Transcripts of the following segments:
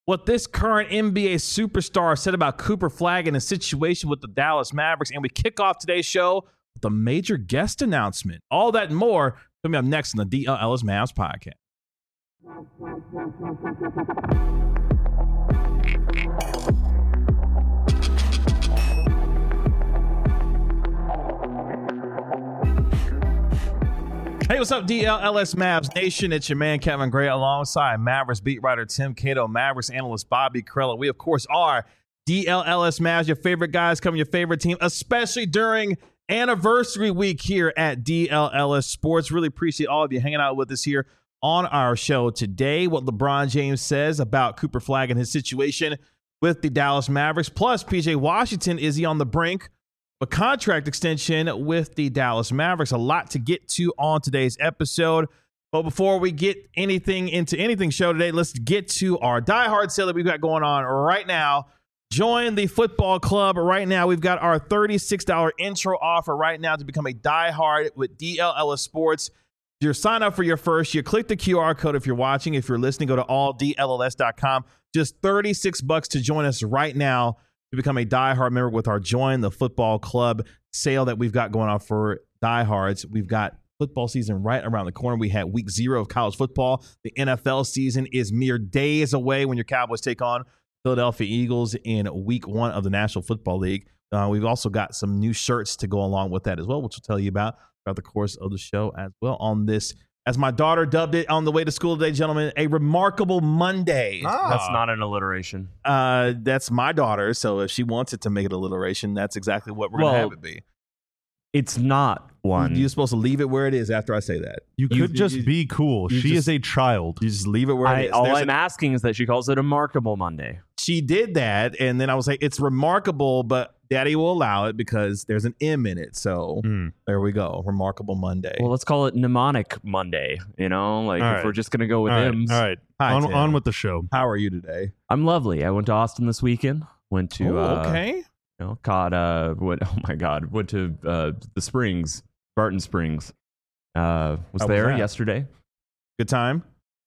what this current NBA superstar said about Cooper Flagg and his situation with the Dallas Mavericks. And we kick off today's show with a major guest announcement. All that and more coming up next on the DLLS Mavs podcast. Hey, what's up, DLLS Mavs Nation? It's your man, Kevin Gray, alongside Mavericks beat writer Tim Cato, Mavericks analyst Bobby Karalla. We, of course, are DLLS Mavs, your favorite guys covering your favorite team, especially during anniversary week here at DLLS Sports. Really appreciate all of you hanging out with us here on our show today. What LeBron James says about Cooper Flagg and his situation with the Dallas Mavericks. Plus, PJ Washington, is he on the brink a contract extension with the Dallas Mavericks? A lot to get to on today's episode. But before we get into anything show today, let's get to our Die Hard sale that we've got going on right now. Join the football club right now. We've got our $36 intro offer right now to become a Die Hard with DLLS Sports. If you sign up for your first year, click the QR code if you're watching. If you're listening, go to alldlls.com. Just $36 to join us right now to become a diehard member with our Join the Football Club sale that we've got going on for diehards. We've got football season right around the corner. We had week 0 of college football. The NFL season is mere days away when your Cowboys take on Philadelphia Eagles in week 1 of the National Football League. We've also got some new shirts to go along with that as well, which we'll tell you about throughout the course of the show as well on this, as my daughter dubbed it on the way to school today, gentlemen, a remarkable Monday. That's not an alliteration. That's my daughter, so if she wants it to make it alliteration, that's exactly what we're going to have it be. It's not one. You're supposed to leave it where it is after I say that. You could just be cool. She is a child. You just leave it where it is. All I'm asking is that she calls it a Remarkable Monday. She did that, and then I was like, it's remarkable, but Daddy will allow it because there's an M in it. So there we go. Remarkable Monday. Well, let's call it Mnemonic Monday, if we're just going to go with M's. All right. Hi, on with the show. How are you today? I'm lovely. I went to Austin this weekend. Went to, okay. Caught, went to the Springs, Barton Springs. Was there yesterday. Good time?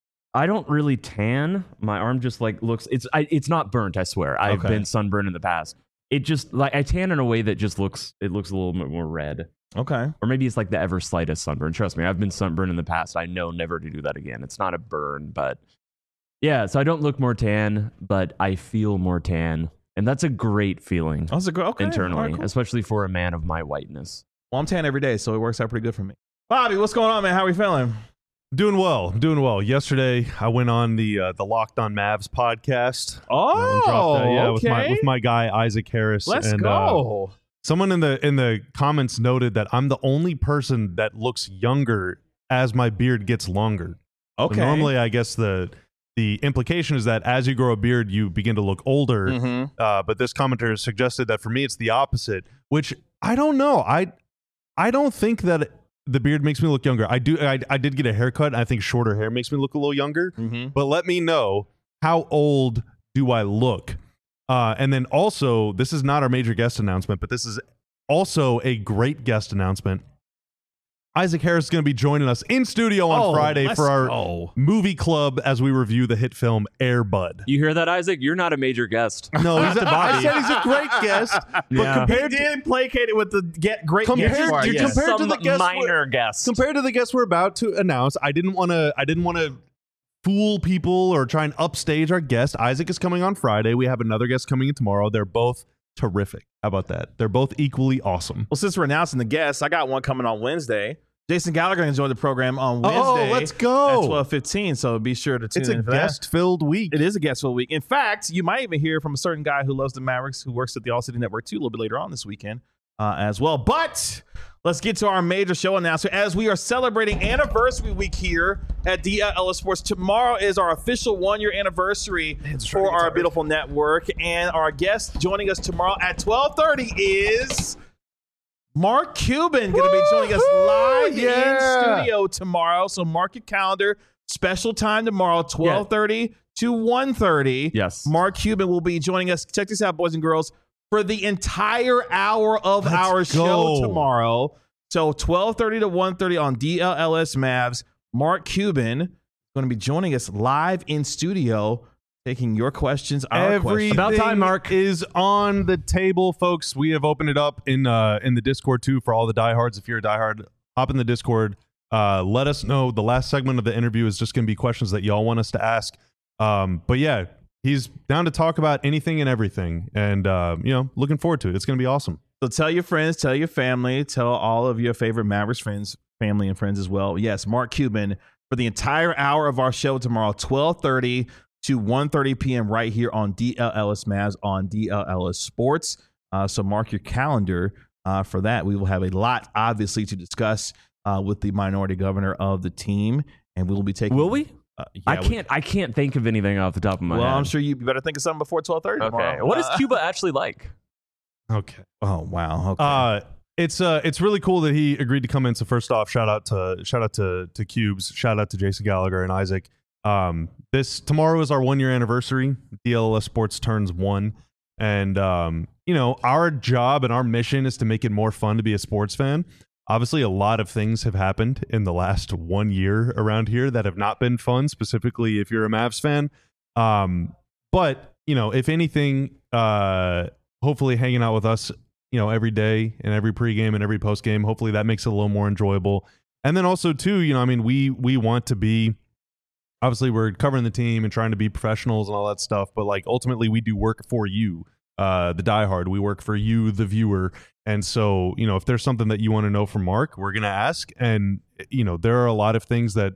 I don't really tan. My arm just looks, it's not burnt, I swear. I've been sunburned in the past. It just I tan in a way that just looks a little bit more red. Okay. Or maybe it's like the ever slightest sunburn. Trust me, I've been sunburned in the past. I know never to do that again. It's not a burn, but yeah, so I don't look more tan, but I feel more tan. And that's a great feeling internally, right, cool. Especially for a man of my whiteness. Well, I'm tan every day, so it works out pretty good for me. Bobby, what's going on, man? How are we feeling? Doing well. Yesterday, I went on the Locked On Mavs podcast. Okay. With my guy Isaac Harris. Let's go. Someone in the comments noted that I'm the only person that looks younger as my beard gets longer. Okay. So normally, I guess the implication is that as you grow a beard, you begin to look older. Mm-hmm. But this commenter suggested that for me, it's the opposite, which I don't know. I don't think that the beard makes me look younger. I did get a haircut. I think shorter hair makes me look a little younger. Mm-hmm. But let me know, how old do I look? And then also, this is not our major guest announcement, but this is also a great guest announcement. Isaac Harris is going to be joining us in studio on Friday for our movie club as we review the hit film Air Bud. You hear that, Isaac? You're not a major guest. No, I said he's a great guest. But compared to placated with the great compared guest. to the guest minor guest. Compared to the guest we're about to announce, I didn't want to fool people or try and upstage our guest. Isaac is coming on Friday. We have another guest coming in tomorrow. They're both terrific. How about that? They're both equally awesome. Well, since we're announcing the guests, I got one coming on Wednesday. Jason Gallagher going to join the program on Wednesday. Oh, let's go. At 12:15, so be sure to tune in for that. It's a guest-filled week. It is a guest-filled week. In fact, you might even hear from a certain guy who loves the Mavericks who works at the All City Network too a little bit later on this weekend as well. But let's get to our major show announcement as we are celebrating anniversary week here at DLLS Sports. Tomorrow is our official 1-year anniversary for our beautiful network. And our guest joining us tomorrow at 12:30 is Mark Cuban, going to be joining us live in studio tomorrow. So mark your calendar. Special time tomorrow, 12:30 to 1:30. Yes. Mark Cuban will be joining us. Check this out, boys and girls, for the entire hour of our show tomorrow. So 12:30 to 1:30 on DLLS Mavs. Mark Cuban is going to be joining us live in studio. taking your questions, our questions. About time, Mark. Is on the table, folks. We have opened it up in the Discord too for all the diehards. If you're a diehard, hop in the Discord. Let us know. The last segment of the interview is just going to be questions that y'all want us to ask. But yeah, he's down to talk about anything and everything, and looking forward to it. It's going to be awesome. So tell your friends, tell your family, tell all of your favorite Mavericks friends, family and friends as well. Yes, Mark Cuban for the entire hour of our show tomorrow, 12:30 to 1:30 p.m. right here on DLLS Mavs on DLLS Sports. So mark your calendar for that. We will have a lot, obviously, to discuss with the minority governor of the team, and we will be taking. Will we? Yeah, I can't think of anything off the top of my head. Well, I'm sure you better think of something before 12:30 tomorrow. Okay. What is Cuba actually like? Okay. Oh wow. Okay. It's really cool that he agreed to come in. So first off, shout out to Cubes, shout out to Jason Gallagher and Isaac. This tomorrow is our 1 year anniversary. DLLS Sports turns 1, and our job and our mission is to make it more fun to be a sports fan. Obviously, a lot of things have happened in the last 1 year around here that have not been fun, specifically if you're a Mavs fan. But if anything, hopefully hanging out with us, every day and every pregame and every postgame, hopefully that makes it a little more enjoyable. And then also too, we want to be, obviously we're covering the team and trying to be professionals and all that stuff, but like ultimately we do work for you, the diehard. We work for you, the viewer. And so, if there's something that you want to know from Mark, we're going to ask. And, there are a lot of things that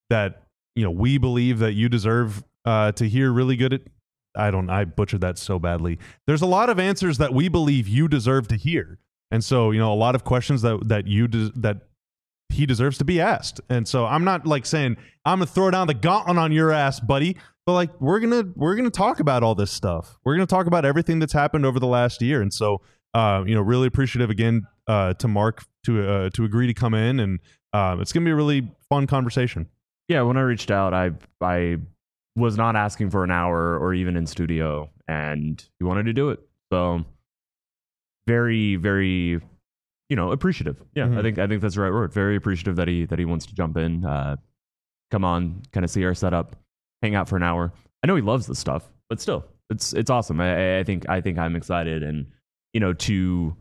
we believe that you deserve to hear really good at. I butchered that so badly. There's a lot of answers that we believe you deserve to hear. And so, a lot of questions that he deserves to be asked. And so I'm not like saying I'm going to throw down the gauntlet on your ass, buddy, but like we're going to talk about all this stuff. We're going to talk about everything that's happened over the last year. And so, really appreciative again to Mark to agree to come in, and it's going to be a really fun conversation. Yeah, when I reached out, I was not asking for an hour or even in studio, and he wanted to do it. So very, very, appreciative. Yeah, Mm-hmm. I think that's the right word. Very appreciative that he wants to jump in, come on, kind of see our setup, hang out for an hour. I know he loves this stuff, but still, it's awesome. I think I'm excited, and to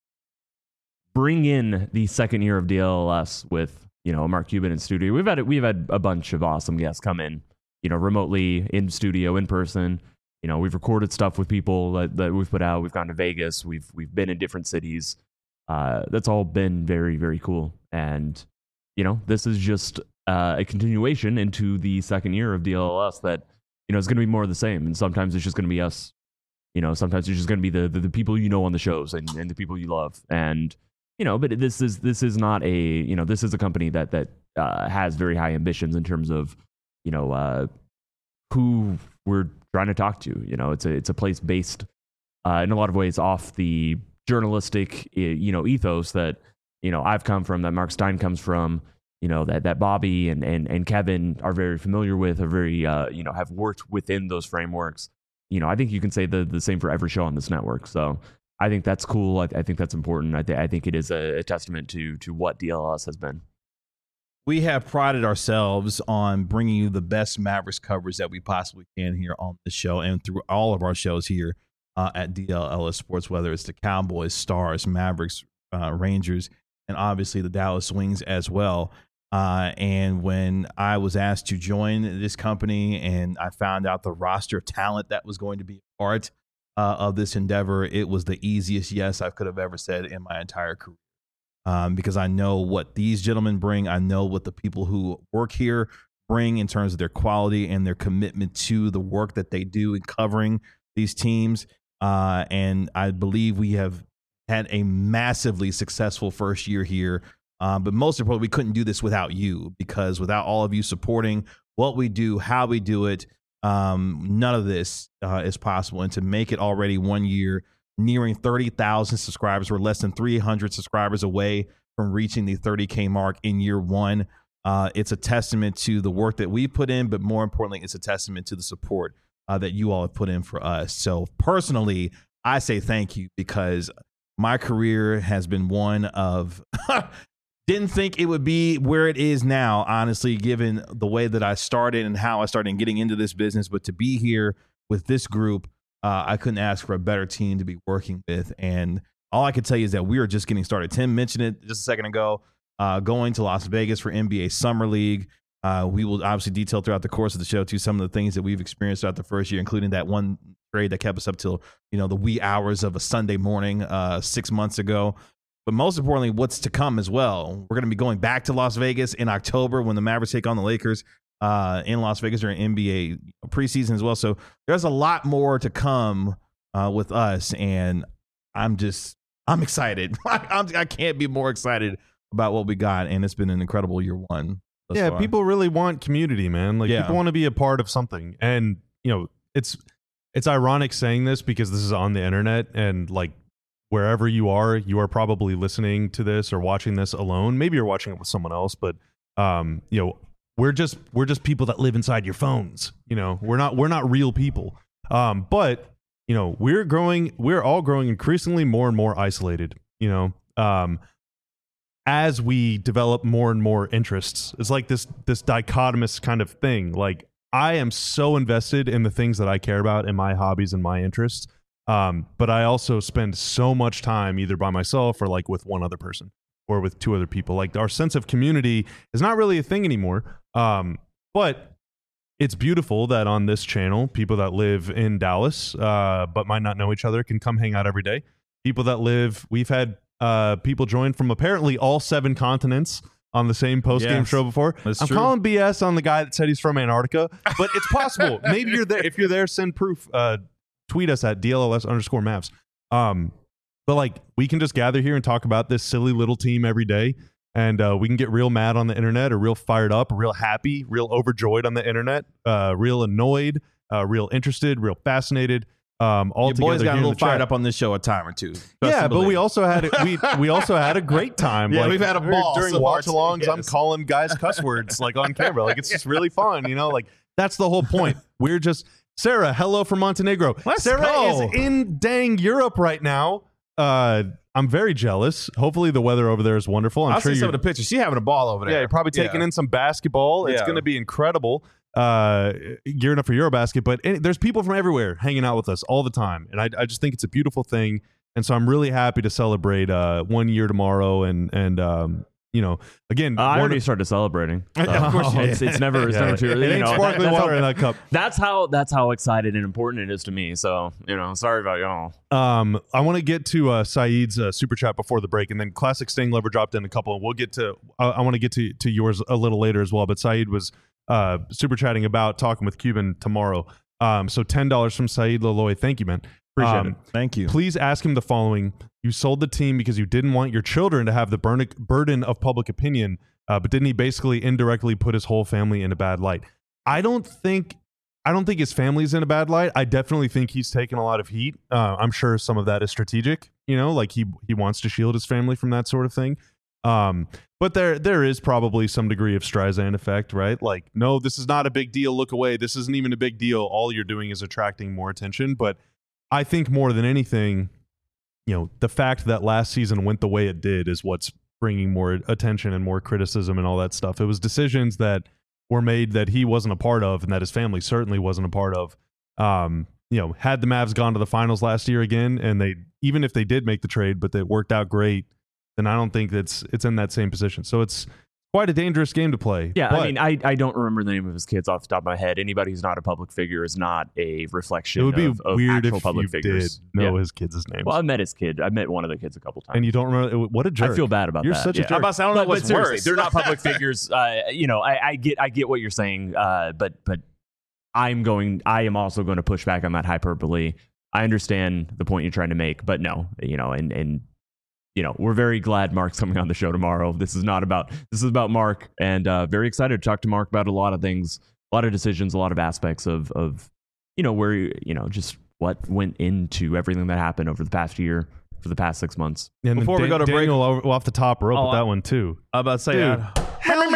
bring in the second year of DLLS with Mark Cuban in studio. We've had a bunch of awesome guests come in, remotely, in studio, in person. We've recorded stuff with people that we've put out. We've gone to Vegas. We've been in different cities. That's all been very, very cool. And this is just a continuation into the second year of DLLS that is going to be more of the same. And sometimes it's just going to be us. Sometimes it's just going to be the people on the shows and the people you love. And but this is not a this is a company that has very high ambitions in terms of who we're trying to talk to. It's a place based in a lot of ways off the journalistic ethos that I've come from, that Mark Stein comes from, that Bobby and Kevin are very familiar with, are very have worked within those frameworks. I think you can say the same for every show on this network. So I think that's cool. I think that's important. I think it is a testament to what DLLS has been. We have prided ourselves on bringing you the best Mavericks coverage that we possibly can here on the show and through all of our shows here at DLLS Sports, whether it's the Cowboys, Stars, Mavericks, Rangers, and obviously the Dallas Wings as well. And when I was asked to join this company and I found out the roster of talent that was going to be part of this endeavor, it was the easiest yes I could have ever said in my entire career. Because I know what these gentlemen bring. I know what the people who work here bring in terms of their quality and their commitment to the work that they do in covering these teams. And I believe we have had a massively successful first year here. But most importantly, we couldn't do this without you, because without all of you supporting what we do, how we do it, none of this is possible. And to make it already 1 year, nearing 30,000 subscribers, we're less than 300 subscribers away from reaching the 30K mark in year one. It's a testament to the work that we put in, but more importantly, it's a testament to the support that you all have put in for us. So personally, I say thank you, because my career has been one of Didn't think it would be where it is now, honestly, given the way that I started and how I started getting into this business. But to be here with this group, I couldn't ask for a better team to be working with. And all I could tell you is that we are just getting started. Tim mentioned it just a second ago, going to Las Vegas for NBA Summer League. We will obviously detail throughout the course of the show, too, some of the things that we've experienced throughout the first year, including that one trade that kept us up till, the wee hours of a Sunday morning 6 months ago. But most importantly, what's to come as well. We're going to be going back to Las Vegas in October when the Mavericks take on the Lakers in Las Vegas during NBA preseason as well. So there's a lot more to come with us, and I'm excited. I can't be more excited about what we got, and it's been an incredible year one. Yeah, people really want community, man. Like people want to be a part of something, and it's ironic saying this because this is on the internet, and like wherever you are probably listening to this or watching this alone. Maybe you're watching it with someone else, but we're just people that live inside your phones. We're not real people. But we're all growing increasingly more and more isolated. As we develop more and more interests. It's like this dichotomous kind of thing. Like, I am so invested in the things that I care about and my hobbies and my interests. But I also spend so much time either by myself or like with one other person or with two other people. Like, our sense of community is not really a thing anymore. But it's beautiful that on this channel, people that live in Dallas, but might not know each other, can come hang out every day. People that we've had people join from apparently all 7 continents on the same post-game show before. I'm calling BS on the guy that said he's from Antarctica, but it's possible. Maybe you're there. If you're there, send proof. Tweet us at DLLS_Mavs. But like, we can just gather here and talk about this silly little team every day, and we can get real mad on the internet, or real fired up, or real happy, real overjoyed on the internet, real annoyed, real interested, real fascinated. All your boys got a little fired up on this show a time or two. Yeah, but we also had we also had a great time. Yeah, we've had a ball during watch-alongs. Yes. I'm calling guys cuss words like on camera. Like, it's just really fun, Like, that's the whole point. We're just Sarah. Hello from Montenegro. Sarah is in dang Europe right now. I'm very jealous. Hopefully the weather over there is wonderful. I'll see some of the pictures. She's having a ball over there. Yeah, you're probably taking in some basketball. It's going to be incredible. Gearing up for Eurobasket, but there's people from everywhere hanging out with us all the time, and I just think it's a beautiful thing, and so I'm really happy to celebrate 1 year tomorrow, and again, I already started celebrating. So. Of course, it's never too early. It ain't sparkling water in that cup. That's how excited and important it is to me. So sorry about y'all. I want to get to Saeed's super chat before the break, and then Classic Sting Lover dropped in a couple, and we'll get to. I want to get to yours a little later as well, but Saeed was super chatting about talking with Cuban tomorrow. So $10 from Saeed Laloy. Thank you, man. Appreciate it. Thank you. Please ask him the following. You sold the team because you didn't want your children to have the burden of public opinion, but didn't he basically indirectly put his whole family in a bad light? I don't think his family's in a bad light. I definitely think he's taken a lot of heat. I'm sure some of that is strategic, like he wants to shield his family from that sort of thing. But there is probably some degree of Streisand effect, right? Like, no, this is not a big deal. Look away. This isn't even a big deal. All you're doing is attracting more attention. But I think more than anything, the fact that last season went the way it did is what's bringing more attention and more criticism and all that stuff. It was decisions that were made that he wasn't a part of and that his family certainly wasn't a part of. Had the Mavs gone to the finals last year again, and even if they did make the trade, but it worked out great, then I don't think it's in that same position. So it's quite a dangerous game to play. Yeah, but I don't remember the name of his kids off the top of my head. Anybody who's not a public figure is not a reflection of weird actual if public you figures. Did know his kids' names. Well, I met his kid. I met one of the kids a couple times. And you don't remember? What a jerk. I feel bad about You're that. such a jerk. I don't know what's worse. They're not public figures. I get what you're saying, but I am also going to push back on that hyperbole. I understand the point you're trying to make, but no, and we're very glad Mark's coming on the show tomorrow. This is about Mark, and very excited to talk to Mark about a lot of things, a lot of decisions, a lot of aspects of where just what went into everything that happened over the past year, for the past 6 months. And before we go to break, Daniel off the top rope with that one too. I'm about to say, Dude, hell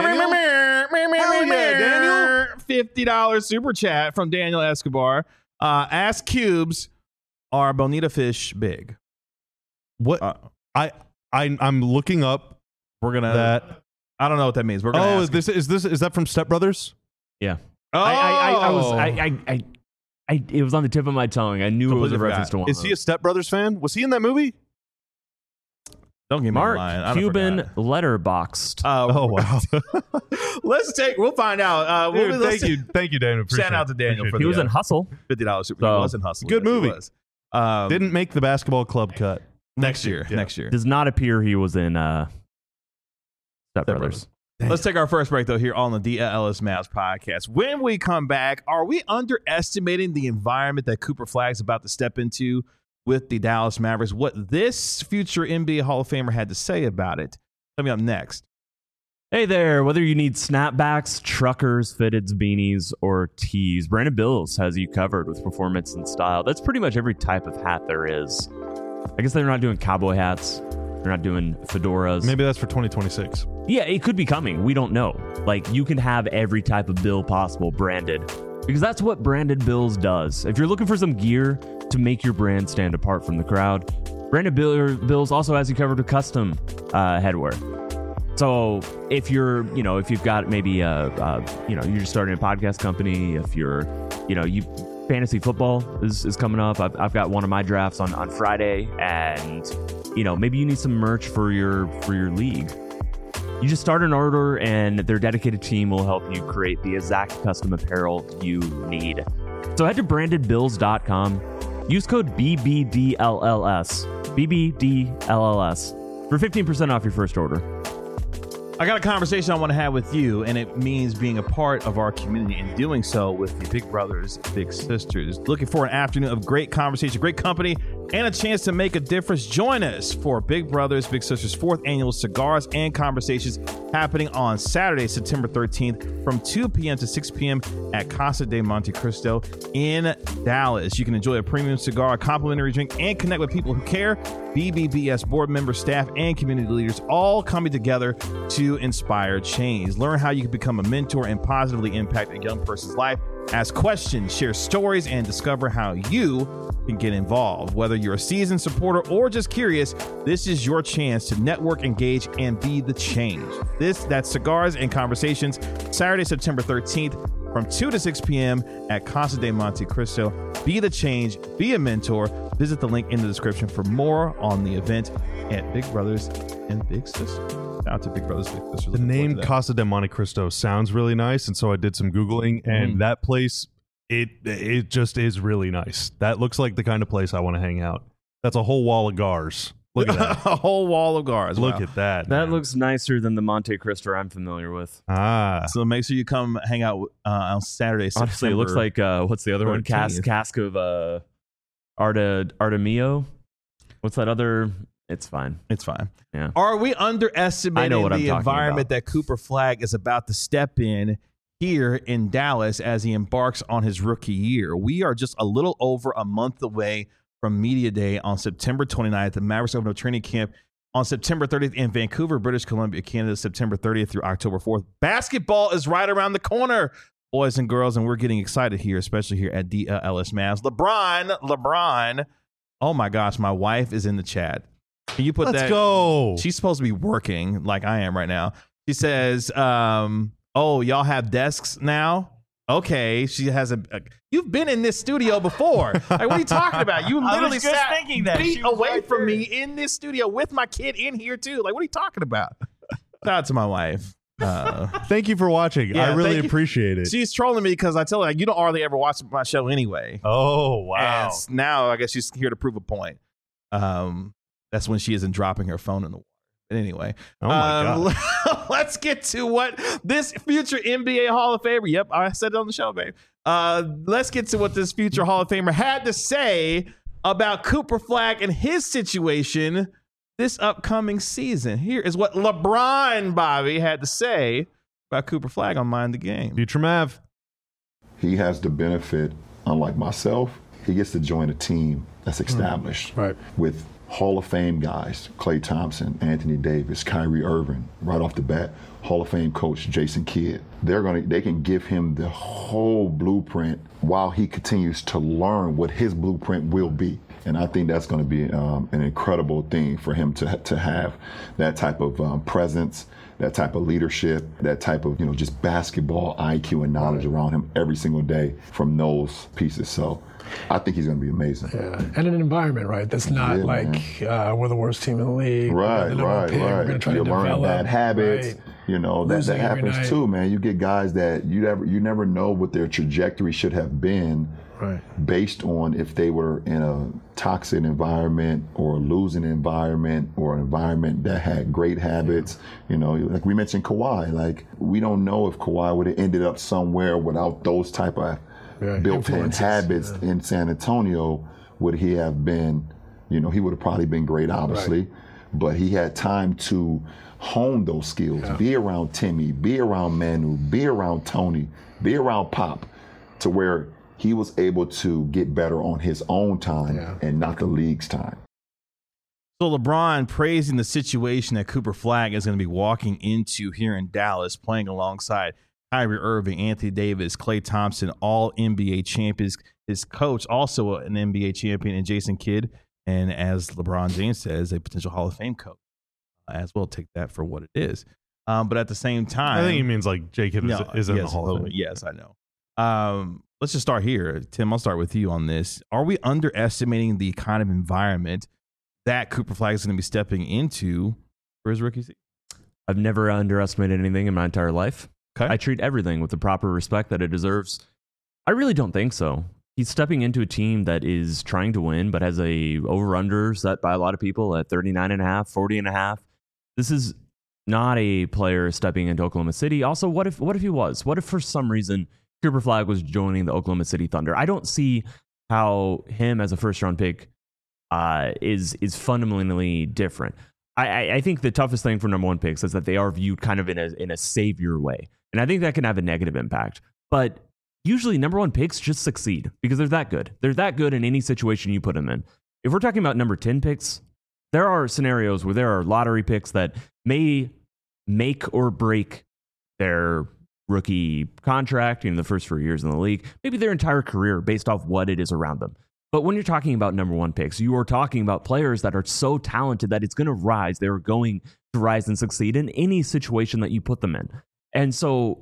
yeah, Daniel. $50 super chat from Daniel Escobar. Ask Cubes, are bonita fish big? What I'm looking up We're gonna. That. I don't know what that means. We're gonna. Is that from Step Brothers? Yeah. Oh, It was on the tip of my tongue. I knew it was a reference to one. Is he a Step Brothers fan? Was he in that movie? Don't get me Mark lying. Cuban letterboxed. Oh wow! We'll find out. Dude, thank you, Daniel. Shout out to Daniel for He was in Hustle. $50 super. He was in Hustle. Good Yes, he movie. was. Didn't make the basketball club cut. Next year. Yeah. Next year. Does not appear he was in Step Brothers. Let's take our first break, though, here on the DLS Mavs podcast. When we come back, are we underestimating the environment that Cooper Flagg's about to step into with the Dallas Mavericks? What this future NBA Hall of Famer had to say about it. Coming up next. Hey there, whether you need snapbacks, truckers, fitteds, beanies, or tees, Brandon Bills has you covered with performance and style. That's pretty much every type of hat there is. I guess they're not doing cowboy hats. They're not doing fedoras. Maybe that's for 2026. Yeah, it could be coming. We don't know. Like, you can have every type of bill possible branded, because that's what Brandon Bills does. If you're looking for some gear to make your brand stand apart from the crowd, Brandon Bills also has you covered with custom headwear. So if you've got maybe you're just starting a podcast company, if you're, fantasy football is coming up. I've got one of my drafts on Friday, and maybe you need some merch for your league. You just start an order, and their dedicated team will help you create the exact custom apparel you need. So head to brandedbills.com. Use code BBDLLS for 15% off your first order. I got a conversation I want to have with you, and it means being a part of our community and doing so with the Big Brothers, Big Sisters. Looking for an afternoon of great conversation, great company, and a chance to make a difference. Join us for Big Brothers, Big Sisters 4th Annual Cigars and Conversations happening on Saturday, September 13th from 2 p.m. to 6 p.m. at Casa de Monte Cristo in Dallas. You can enjoy a premium cigar, a complimentary drink, and connect with people who care. BBBS board members, staff, and community leaders all coming together to inspire change. Learn how you can become a mentor and positively impact a young person's life. Ask questions, share stories, and discover how you can get involved. Whether you're a seasoned supporter or just curious, this is your chance to network, engage, and be the change. That's Cigars and Conversations, Saturday, September 13th from 2 to 6 p.m. at Casa de Monte Cristo. Be the change, be a mentor. Visit the link in the description for more on the event at Big Brothers and Big Sisters. Shout out to Big Brothers, Big Sisters. The name Casa de Monte Cristo sounds really nice, and so I did some Googling, and that place, it just is really nice. That looks like the kind of place I want to hang out. That's a whole wall of cigars. Look at that. A whole wall of cigars. Look at that. That man. looks nicer than the Monte Cristo I'm familiar with. So make sure you come hang out on Saturday. Honestly, it looks like what's the other 13th. one? Cask of Artemio. What's that other? It's fine. It's fine. Yeah. Are we underestimating what I'm the talking environment about. that Cooper Flagg is about to step in here in Dallas as he embarks on his rookie year? We are just a little over a month away from Media Day on September 29th. The Mavericks open up training camp on September 30th in Vancouver, British Columbia, Canada, September 30th through October 4th. Basketball is right around the corner, boys and girls, and we're getting excited here, especially here at DLS Mavs. LeBron. Oh my gosh, my wife is in the chat. Can you put that? Let's go. She's supposed to be working like I am right now. She says, oh, y'all have desks now? Okay. She has you've been in this studio before. Like, what are you talking about? You literally sat feet away from me in this studio with my kid in here too. Like, what are you talking about? Shout out to my wife. Thank you for watching. Yeah, I really thank you. appreciate it. She's trolling me because I tell her, you don't hardly ever watch my show anyway. Oh, wow. And now I guess she's here to prove a point. That's when she isn't dropping her phone in the water. But anyway, Oh, my God. let's get to what this future NBA Hall of Famer, yep, I said it on the show, babe. Let's get to what this future Hall of Famer had to say about Cooper Flagg and his situation this upcoming season. Here is what LeBron Bobby had to say about Cooper Flagg on Mind the Game. Future Mav. He has the benefit, unlike myself, he gets to join a team that's established Right. with Hall of Fame guys, Klay Thompson, Anthony Davis, Kyrie Irving, right off the bat, Hall of Fame coach Jason Kidd. They can give him the whole blueprint while he continues to learn what his blueprint will be. And I think that's going to be an incredible thing for him to have that type of presence, that type of leadership, that type of, just basketball IQ and knowledge around him every single day from those pieces. So I think he's going to be amazing. Yeah, and an environment, right? That's not we're the worst team in the league. Right. We're going to try to learn bad habits. Right. That happens too, man. You get guys that you never know what their trajectory should have been. Right. Based on if they were in a toxic environment or a losing environment or an environment that had great habits. Like we mentioned Kawhi, like we don't know if Kawhi would have ended up somewhere without those type of built-in habits in San Antonio. Would he have been, he would have probably been great, obviously, but he had time to hone those skills, be around Timmy, be around Manu, be around Tony, be around Pop, to where he was able to get better on his own time and not the league's time. So LeBron praising the situation that Cooper Flagg is going to be walking into here in Dallas, playing alongside Kyrie Irving, Anthony Davis, Klay Thompson, all NBA champions. His coach, also an NBA champion, and Jason Kidd, and as LeBron James says, a potential Hall of Fame coach as well. Take that for what it is. But at the same time, I think he means like J. Kidd is in the Hall of Fame. Yes, I know. Let's just start here. Tim, I'll start with you on this. Are we underestimating the kind of environment that Cooper Flagg is going to be stepping into for his rookie season? I've never underestimated anything in my entire life. Okay. I treat everything with the proper respect that it deserves. I really don't think so. He's stepping into a team that is trying to win, but has a over-under set by a lot of people at 39.5, 40.5. This is not a player stepping into Oklahoma City. Also, what if he was? What if for some reason Cooper Flagg was joining the Oklahoma City Thunder? I don't see how him as a first-round pick is fundamentally different. I think the toughest thing for number one picks is that they are viewed kind of in a savior way, and I think that can have a negative impact. But usually, number one picks just succeed because they're that good. They're that good in any situation you put them in. If we're talking about number 10 picks, there are scenarios where there are lottery picks that may make or break their rookie contract in the first 4 years in the league, maybe their entire career based off what it is around them. But when you're talking about number one picks, you are talking about players that are so talented that it's going to rise. They're going to rise and succeed in any situation that you put them in. And so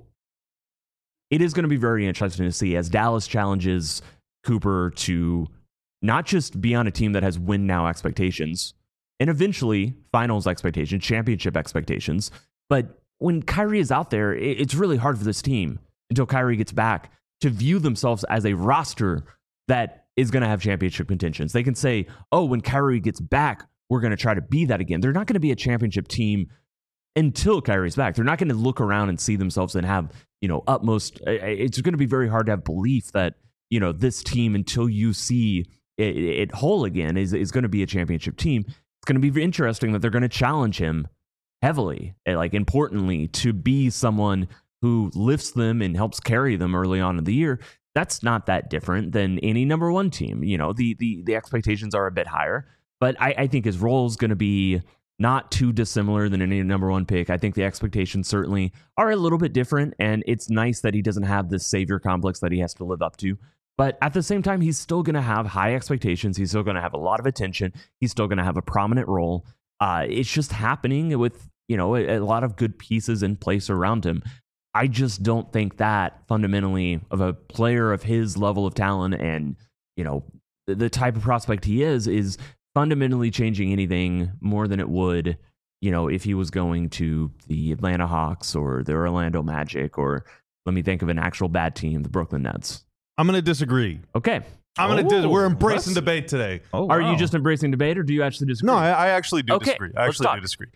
it is going to be very interesting to see as Dallas challenges Cooper to not just be on a team that has win now expectations and eventually finals expectations, championship expectations. But when Kyrie is out there, it's really hard for this team until Kyrie gets back to view themselves as a roster that is going to have championship contentions. They can say, oh, when Kyrie gets back, we're going to try to be that again. They're not going to be a championship team until Kyrie's back. They're not going to look around and see themselves and have, utmost. It's going to be very hard to have belief that, this team, until you see it whole again, is going to be a championship team. It's going to be interesting that they're going to challenge him heavily, importantly, to be someone who lifts them and helps carry them early on in the year. That's not that different than any number one team. The expectations are a bit higher, but I think his role is going to be not too dissimilar than any number one pick. I think the expectations certainly are a little bit different, and it's nice that he doesn't have this savior complex that he has to live up to. But at the same time, he's still going to have high expectations. He's still going to have a lot of attention. He's still going to have a prominent role. It's just happening with, a lot of good pieces in place around him. I just don't think that fundamentally of a player of his level of talent and, the type of prospect he is fundamentally changing anything more than it would, if he was going to the Atlanta Hawks or the Orlando Magic, or let me think of an actual bad team, the Brooklyn Nets. I'm going to disagree. Okay. We're embracing debate today. Oh, wow. Are you just embracing debate, or do you actually disagree? No, I actually do Okay, disagree. I actually do disagree.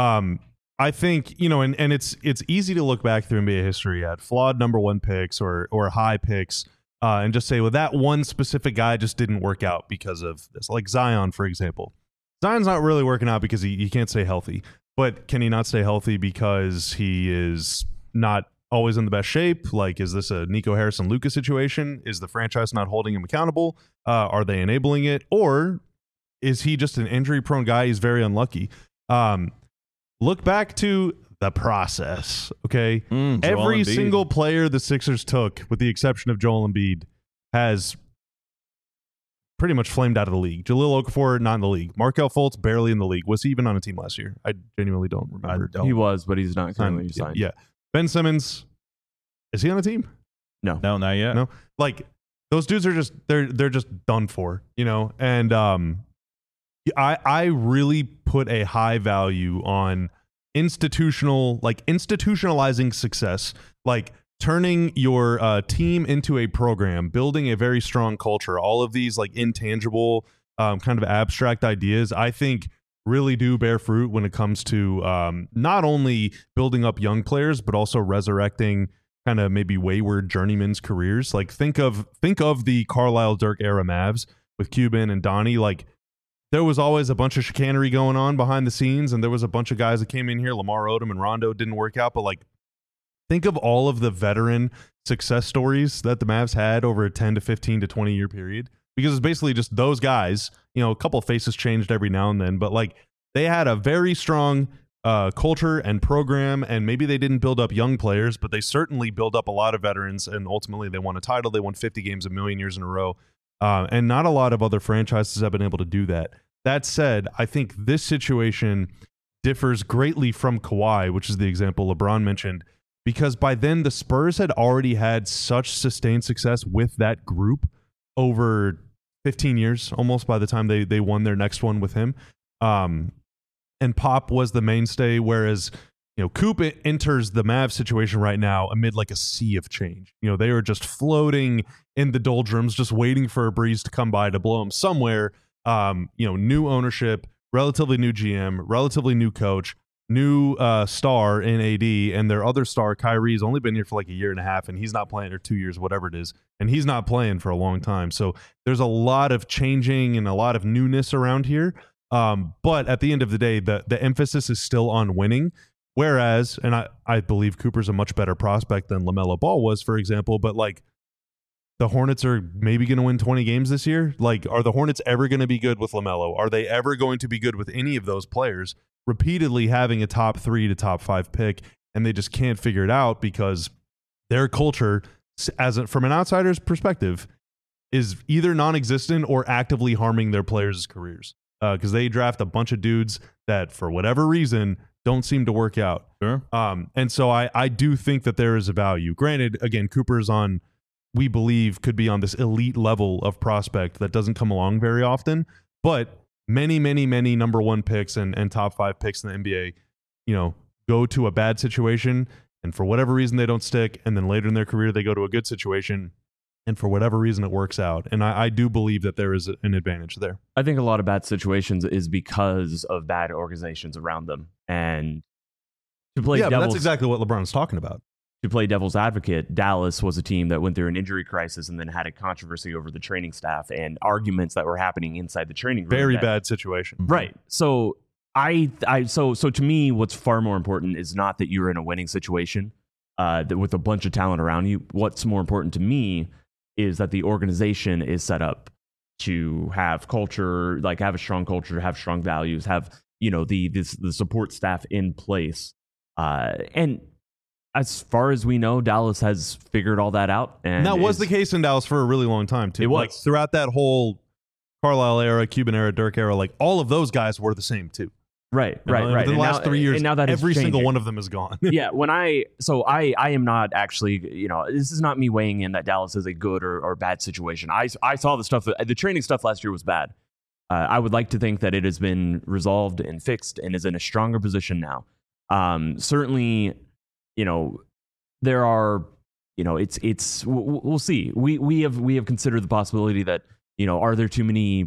I think, and it's easy to look back through NBA history at flawed number one picks or high picks and just say, well, that one specific guy just didn't work out because of this. Like Zion, for example. Zion's not really working out because he can't stay healthy. But can he not stay healthy because he is not always in the best shape? Like, is this a Nico Harrison-Lucas situation? Is the franchise not holding him accountable? Are they enabling it? Or is he just an injury-prone guy? He's very unlucky. Look back to the process, okay? Every single player the Sixers took, with the exception of Joel Embiid, has pretty much flamed out of the league. Jahlil Okafor, not in the league. Markelle Fultz, barely in the league. Was he even on a team last year? I genuinely don't remember. He was, but he's not currently signed. Yeah. Ben Simmons, is he on a team? No, not yet. No. Like, those dudes are just they're just done for, you know. And I really put a high value on institutionalizing success, like turning your team into a program, building a very strong culture. All of these like intangible kind of abstract ideas, I think, really do bear fruit when it comes to not only building up young players but also resurrecting kind of maybe wayward journeymen's careers. Like think of the Carlisle Dirk era Mavs with Cuban and Donnie. Like, there was always a bunch of chicanery going on behind the scenes, and there was a bunch of guys that came in here. Lamar Odom and Rondo didn't work out, but like, think of all of the veteran success stories that the Mavs had over a 10 to 15 to 20 year period, because it's basically just those guys. You know, a couple of faces changed every now and then, but like, they had a very strong culture and program, and maybe they didn't build up young players, but they certainly built up a lot of veterans, and ultimately they won a title. They won 50 games a million years in a row, and not a lot of other franchises have been able to do that. That said, I think this situation differs greatly from Kawhi, which is the example LeBron mentioned, because by then the Spurs had already had such sustained success with that group over 15 years, almost, by the time they won their next one with him. And Pop was the mainstay, whereas, you know, Coop enters the Mavs situation right now amid like a sea of change. You know, they are just floating in the doldrums, just waiting for a breeze to come by to blow them somewhere. You know, new ownership, relatively new GM, relatively new coach, new star in AD, and their other star, Kyrie's only been here for like a year and a half, and he's not playing, or 2 years, whatever it is, and he's not playing for a long time. So there's a lot of changing and a lot of newness around here. But at the end of the day, the emphasis is still on winning. Whereas, and I believe Cooper's a much better prospect than LaMelo Ball was, for example, but like, the Hornets are maybe going to win 20 games this year. Like, are the Hornets ever going to be good with LaMelo? Are they ever going to be good with any of those players? Repeatedly having a top 3 to top 5 pick, and they just can't figure it out because their culture, from an outsider's perspective, is either non-existent or actively harming their players' careers. Because they draft a bunch of dudes that, for whatever reason, don't seem to work out. Sure. And so I do think that there is a value. Granted, again, Cooper's on, we believe, could be on this elite level of prospect that doesn't come along very often. But many, many, many number 1 picks and top 5 picks in the NBA, you know, go to a bad situation, and for whatever reason they don't stick, and then later in their career they go to a good situation, and for whatever reason it works out. And I do believe that there is an advantage there. I think a lot of bad situations is because of bad organizations around them. And to play but that's exactly what LeBron's talking about. To play devil's advocate, Dallas was a team that went through an injury crisis and then had a controversy over the training staff and arguments that were happening inside the training room. Very bad situation. Right. So so to me, what's far more important is not that you're in a winning situation with a bunch of talent around you. What's more important to me is that the organization is set up to have culture, like have a strong culture, have strong values, have, you know, the support staff in place. And as far as we know, Dallas has figured all that out. And that was the case in Dallas for a really long time, too. It was. Like, throughout that whole Carlisle era, Cuban era, Dirk era, like, all of those guys were the same, too. Right. In the last 3 years, and now that every single one of them is gone. Yeah, I am not actually, you know, this is not me weighing in that Dallas is a good or bad situation. I saw the stuff, the training stuff last year was bad. I would like to think that it has been resolved and fixed and is in a stronger position now. Certainly, you know, there are, you know, we'll see. We have considered the possibility that, you know, are there too many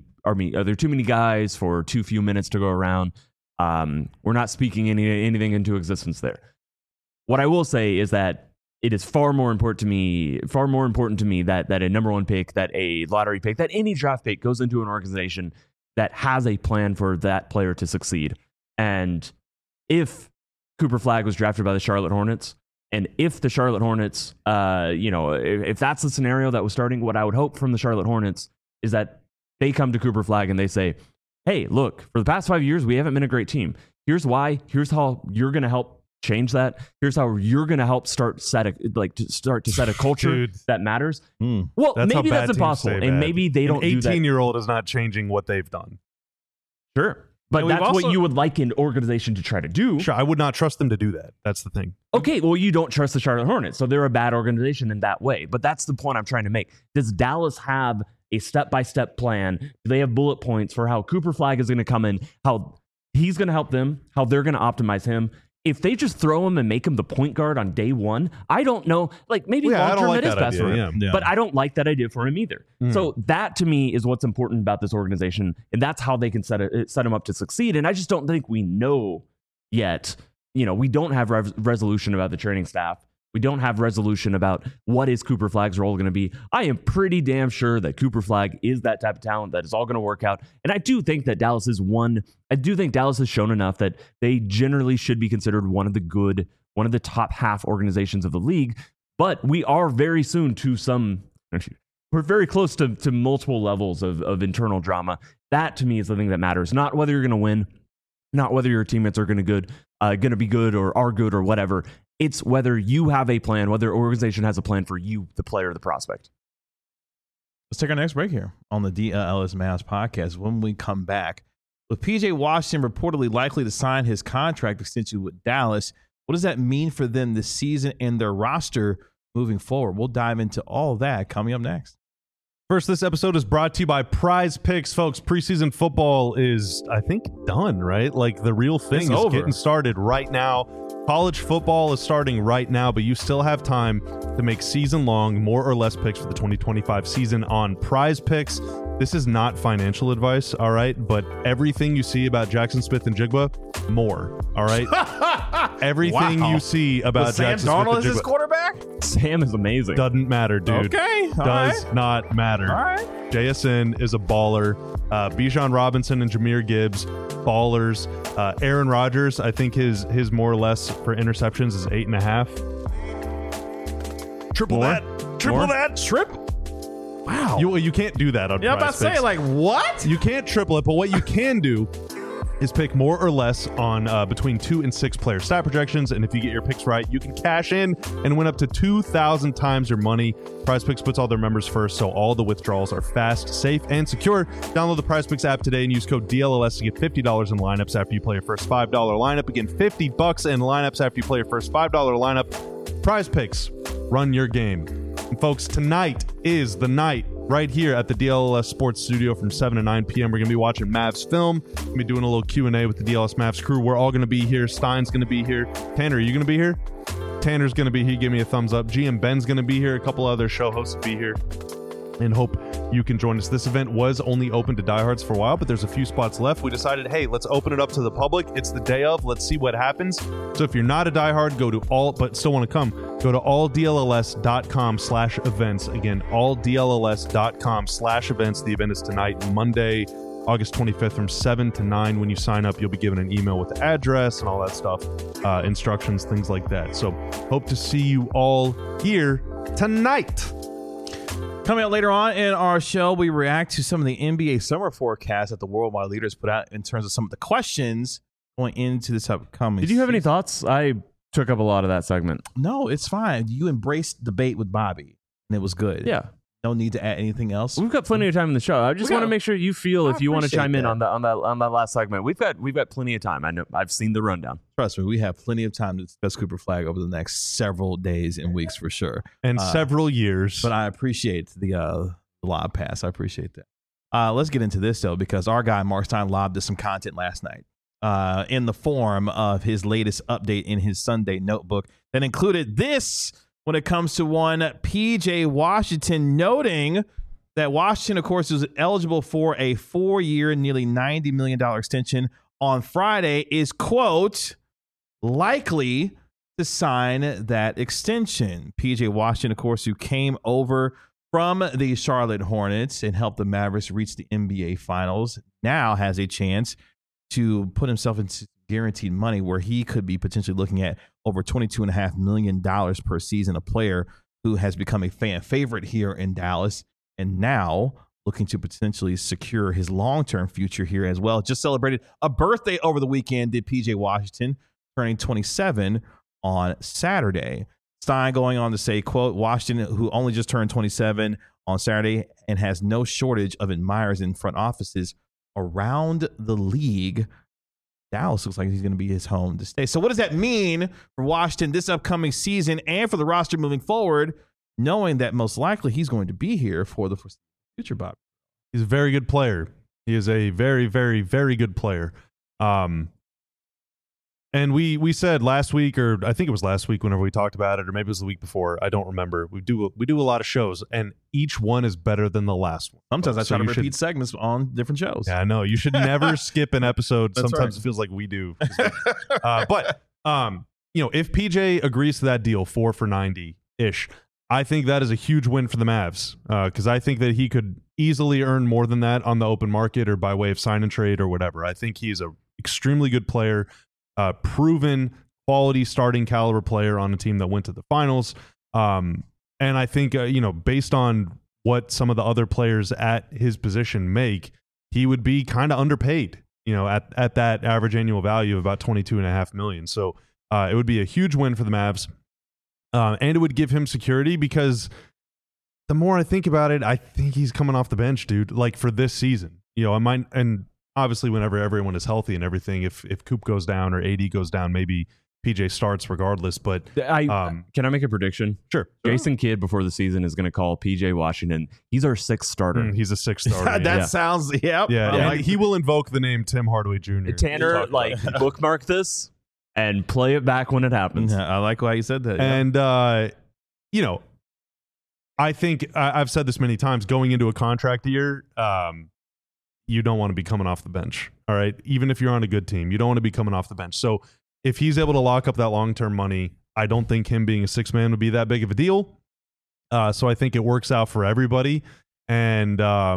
guys for too few minutes to go around? We're not speaking anything into existence there. What I will say is that it is far more important to me that a number 1 pick, that a lottery pick, that any draft pick goes into an organization that has a plan for that player to succeed. And if Cooper Flagg was drafted by the Charlotte Hornets, and if the Charlotte Hornets, you know, if that's the scenario that was starting, what I would hope from the Charlotte Hornets is that they come to Cooper Flagg and they say, hey, look, for the past 5 years, we haven't been a great team. Here's why. Here's how you're going to help change that. Here's how you're going to help start to set a culture that matters. Well, maybe that's impossible, and maybe they don't do that. An 18-year-old is not changing what they've done. Sure. But that's what you would like an organization to try to do. Sure, I would not trust them to do that. That's the thing. Okay, well, you don't trust the Charlotte Hornets, so they're a bad organization in that way. But that's the point I'm trying to make. Does Dallas have a step-by-step plan? Do they have bullet points for how Cooper Flagg is going to come in, how he's going to help them, how they're going to optimize him? If they just throw him and make him the point guard on day one, I don't know. Like, maybe long-term it is best for him. Yeah. But I don't like that idea for him either. So that, to me, is what's important about this organization, and that's how they can set him up to succeed. And I just don't think we know yet. You know, we don't have resolution about the training staff. We don't have resolution about what is Cooper Flagg's role going to be. I am pretty damn sure that Cooper Flagg is that type of talent that is all going to work out. And I do think that Dallas has shown enough that they generally should be considered one of the top half organizations of the league. But we are very soon we're very close to multiple levels of internal drama. That, to me, is the thing that matters. Not whether you're going to win, not whether your teammates are going to be good or are good or whatever. It's whether you have a plan, whether an organization has a plan for you, the player, or the prospect. Let's take our next break here on the DLS Mavs podcast. When we come back, with PJ Washington reportedly likely to sign his contract extension with Dallas, what does that mean for them this season and their roster moving forward? We'll dive into all that coming up next. First, this episode is brought to you by Prize Picks, folks. Preseason football is, I think, done, right? Like, the real thing is getting started right now. College football is starting right now, but you still have time to make season-long, more or less picks for the 2025 season on Prize Picks. This is not financial advice, all right? But everything you see about Jackson Smith-Njigba, more, all right? Everything you see about Jackson Sam Darnold Smith-Njigba. is his quarterback? Sam is amazing. Doesn't matter, dude. Okay. Does not matter. All right. JSN is a baller. Bijan Robinson and Jahmyr Gibbs, ballers. Aaron Rodgers, I think his more or less for interceptions is 8.5. Triple that. Wow. You can't do that on Yeah, I'm about to say, like, what? You can't triple it, but what you can do is pick more or less on between 2 and 6 player stat projections, and if you get your picks right, you can cash in and win up to 2,000 times your money. Prize Picks puts all their members first, so all the withdrawals are fast, safe, and secure. Download the Prize Picks app today and use code DLLS to get $50 in lineups after you play your first $5 lineup. Again, $50 in lineups after you play your first $5 lineup. Prize Picks, run your game. And folks, tonight is the night right here at the DLS Sports Studio from 7 to 9 p.m. We're going to be watching Mavs film. We're going to be doing a little Q&A with the DLS Mavs crew. We're all going to be here. Stein's going to be here. Tanner, are you going to be here? Tanner's going to be here. Give me a thumbs up. GM Ben's going to be here. A couple other show hosts will be here. And hope you can join us. This event was only open to diehards for a while, but there's a few spots left. We decided, hey, let's open it up to the public. It's the day of. Let's see what happens. So if you're not a diehard, but still want to come, go to alldlls.com/events. Again, alldlls.com/events. The event is tonight, Monday, August 25th from 7 to 9. When you sign up, you'll be given an email with the address and all that stuff, instructions, things like that. So hope to see you all here tonight. Coming up later on in our show, we react to some of the NBA summer forecasts that the worldwide leaders put out in terms of some of the questions going into this upcoming Did you have any thoughts? I took up a lot of that segment. No, it's fine. You embraced debate with Bobby, and it was good. Yeah. No need to add anything else. We've got plenty of time in the show. I just want to make sure you feel if you want to chime in on that last segment. We've got plenty of time. I know I've seen the rundown. Trust me, we have plenty of time to discuss Cooper Flagg over the next several days and weeks for sure, and several years. But I appreciate the lob pass. I appreciate that. Let's get into this though, because our guy Mark Stein lobbed us some content last night in the form of his latest update in his Sunday notebook that included this. When it comes to one PJ Washington, noting that Washington, of course, is eligible for a 4-year, nearly $90 million extension on Friday, is, quote, likely to sign that extension. PJ Washington, of course, who came over from the Charlotte Hornets and helped the Mavericks reach the NBA Finals, now has a chance to put himself into guaranteed money where he could be potentially looking at over $22.5 million per season, a player who has become a fan favorite here in Dallas and now looking to potentially secure his long-term future here as well. Just celebrated a birthday over the weekend, did PJ Washington, turning 27 on Saturday. Stein going on to say, quote, Washington, who only just turned 27 on Saturday and has no shortage of admirers in front offices around the league. Dallas looks like he's going to be his home to stay. So what does that mean for Washington this upcoming season and for the roster moving forward, knowing that most likely he's going to be here for the future, Bob? He's a very good player. He is a very, very, very good player. And we said last week, or I think it was last week whenever we talked about it, or maybe it was the week before. I don't remember. We do a lot of shows, and each one is better than the last one. Sometimes I try to repeat segments on different shows. Yeah, I know. You should never skip an episode. That's Sometimes right. it feels like we do. But if PJ agrees to that deal, 4 for $90-ish, I think that is a huge win for the Mavs, because I think that he could easily earn more than that on the open market or by way of sign and trade or whatever. I think he's an extremely good player. Proven quality starting caliber player on a team that went to the finals. And I think, based on what some of the other players at his position make, he would be kind of underpaid, at that average annual value of about $22.5 million. So it would be a huge win for the Mavs. And it would give him security, because the more I think about it, I think he's coming off the bench, dude, like for this season. And obviously, whenever everyone is healthy and everything, if Coop goes down or AD goes down, maybe PJ starts regardless. But can I make a prediction? Sure. Jason Kidd before the season is going to call PJ Washington. He's our 6th starter. He's a 6th starter. That sounds, yep. Yeah, and he will invoke the name Tim Hardaway Jr. Tanner, bookmark this and play it back when it happens. I like why you said that. And, I think I've said this many times, going into a contract year, you don't want to be coming off the bench. All right. Even if you're on a good team, you don't want to be coming off the bench. So if he's able to lock up that long-term money, I don't think him being a 6th man would be that big of a deal. So I think it works out for everybody. And I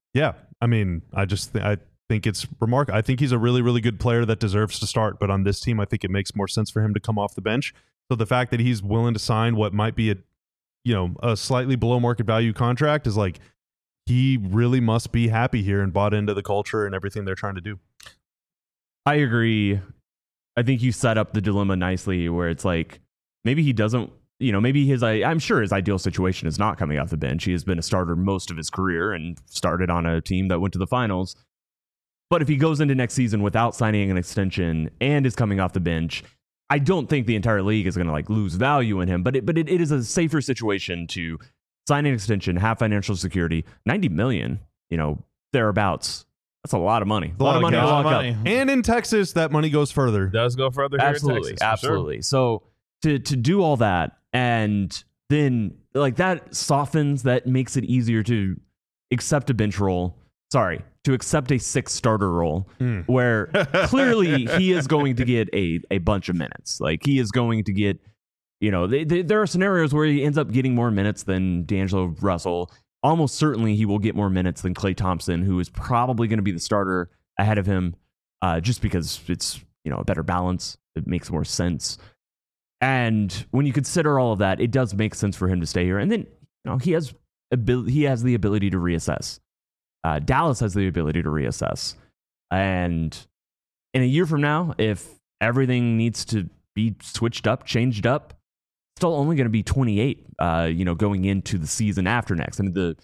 think it's remarkable. I think he's a really, really good player that deserves to start. But on this team, I think it makes more sense for him to come off the bench. So the fact that he's willing to sign what might be a slightly below market value contract is like, he really must be happy here and bought into the culture and everything they're trying to do. I agree. I think you set up the dilemma nicely, where it's like, maybe he doesn't, maybe I'm sure his ideal situation is not coming off the bench. He has been a starter most of his career and started on a team that went to the finals. But if he goes into next season without signing an extension and is coming off the bench, I don't think the entire league is going to lose value in him. But it is a safer situation to sign an extension, have financial security, $90 million, thereabouts. That's a lot of money. A lot of money to lock up. And in Texas, that money goes further. Does go further here Absolutely, in Texas. absolutely. Sure. So to do all that, and then that softens, that makes it easier to accept a bench role. Sorry, to accept a 6th starter role, where clearly he is going to get a bunch of minutes. He is going to get. There are scenarios where he ends up getting more minutes than D'Angelo Russell. Almost certainly he will get more minutes than Klay Thompson, who is probably going to be the starter ahead of him, just because it's a better balance. It makes more sense. And when you consider all of that, it does make sense for him to stay here. And then he has the ability to reassess. Dallas has the ability to reassess. And in a year from now, if everything needs to be switched up, changed up, still only going to be 28, going into the season after next. I mean, the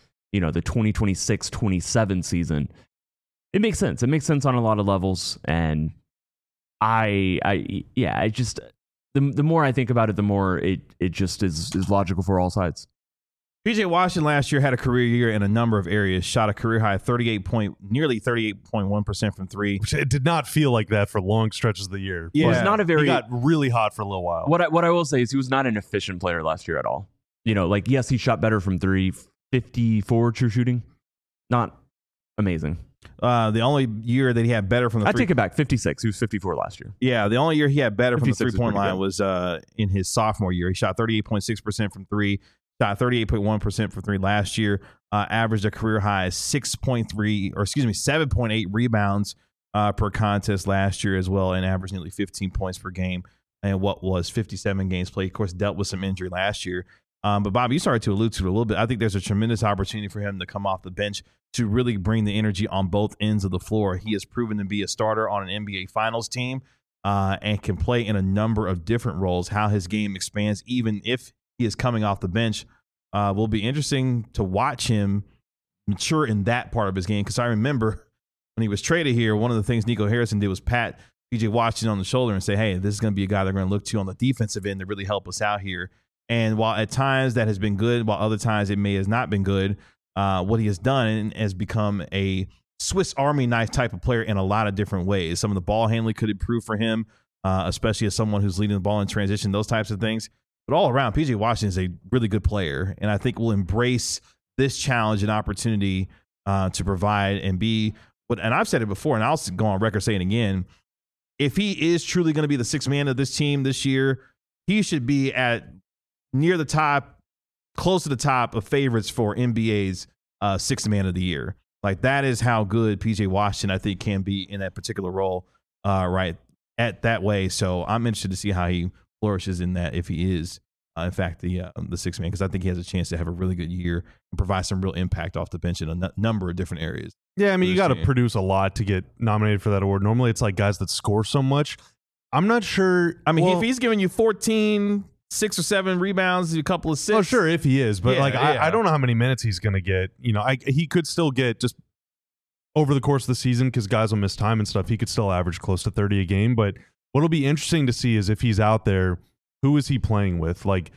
2026-27 season. It makes sense. It makes sense on a lot of levels. And the more I think about it, the more it just is logical for all sides. PJ Washington last year had a career year in a number of areas, shot a career high nearly 38.1% from three. It did not feel like that for long stretches of the year. Yeah. It was not a very. He got really hot for a little while. What I will say is he was not an efficient player last year at all. Yes, he shot better from three, 54 true shooting. Not amazing. The only year that he had better from the I take it back, 56. He was 54 last year. Yeah, the only year he had better from the 3-point line good. was in his sophomore year. He shot 38.6% from three, shot 38.1% from three last year, averaged a career high 7.8 rebounds per contest last year as well, and averaged nearly 15 points per game and what was 57 games played. Of course, dealt with some injury last year. But Bob, you started to allude to it a little bit. I think there's a tremendous opportunity for him to come off the bench to really bring the energy on both ends of the floor. He has proven to be a starter on an NBA Finals team and can play in a number of different roles. How his game expands, even if he is coming off the bench, will be interesting to watch him mature in that part of his game. Because I remember when he was traded here, one of the things Nico Harrison did was pat P.J. Washington on the shoulder and say, hey, this is going to be a guy they're going to look to on the defensive end to really help us out here. And while at times that has been good, while other times it may has not been good, what he has done has become a Swiss Army knife type of player in a lot of different ways. Some of the ball handling could improve for him, especially as someone who's leading the ball in transition, those types of things. But all around, P.J. Washington is a really good player, and I think will embrace this challenge and opportunity to provide and be what. And I've said it before, and I'll go on record saying it again. If he is truly going to be the sixth man of this team this year, he should be at near the top, close to the top of favorites for NBA's sixth man of the year. Like, that is how good P.J. Washington, I think, can be in that particular role right at that way. So I'm interested to see how he flourishes in that, if he is, in fact, the sixth man, because I think he has a chance to have a really good year and provide some real impact off the bench in a number of different areas. Yeah, I mean, you got to produce a lot to get nominated for that award. Normally, it's like guys that score so much. I'm not sure. I mean, if he's giving you 14, 6 or 7 rebounds, a couple of assists. Oh, sure, if he is. But I don't know how many minutes he's going to get. You know, he could still get, just over the course of the season, because guys will miss time and stuff, he could still average close to 30 a game. But what'll be interesting to see is if he's out there, who is he playing with? Like,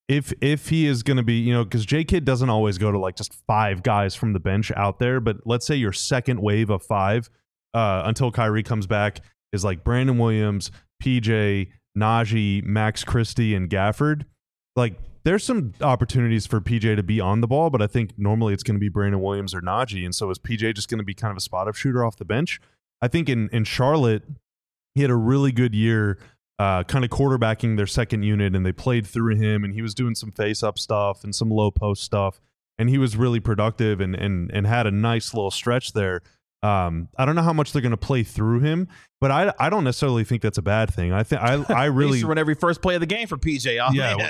if he is going to be, you know, because J-Kid doesn't always go to like just 5 guys from the bench out there, but let's say your second wave of 5 until Kyrie comes back is like Brandon Williams, PJ, Najee, Max Christie, and Gafford. Like, there's some opportunities for PJ to be on the ball, but I think normally it's going to be Brandon Williams or Najee. And so is PJ just going to be kind of a spot-up shooter off the bench? I think in Charlotte, he had a really good year kind of quarterbacking their second unit, and they played through him, and he was doing some face-up stuff and some low-post stuff, and he was really productive and had a nice little stretch there. I don't know how much they're going to play through him, but I don't necessarily think that's a bad thing. I think I really used to run every first play of the game for PJ.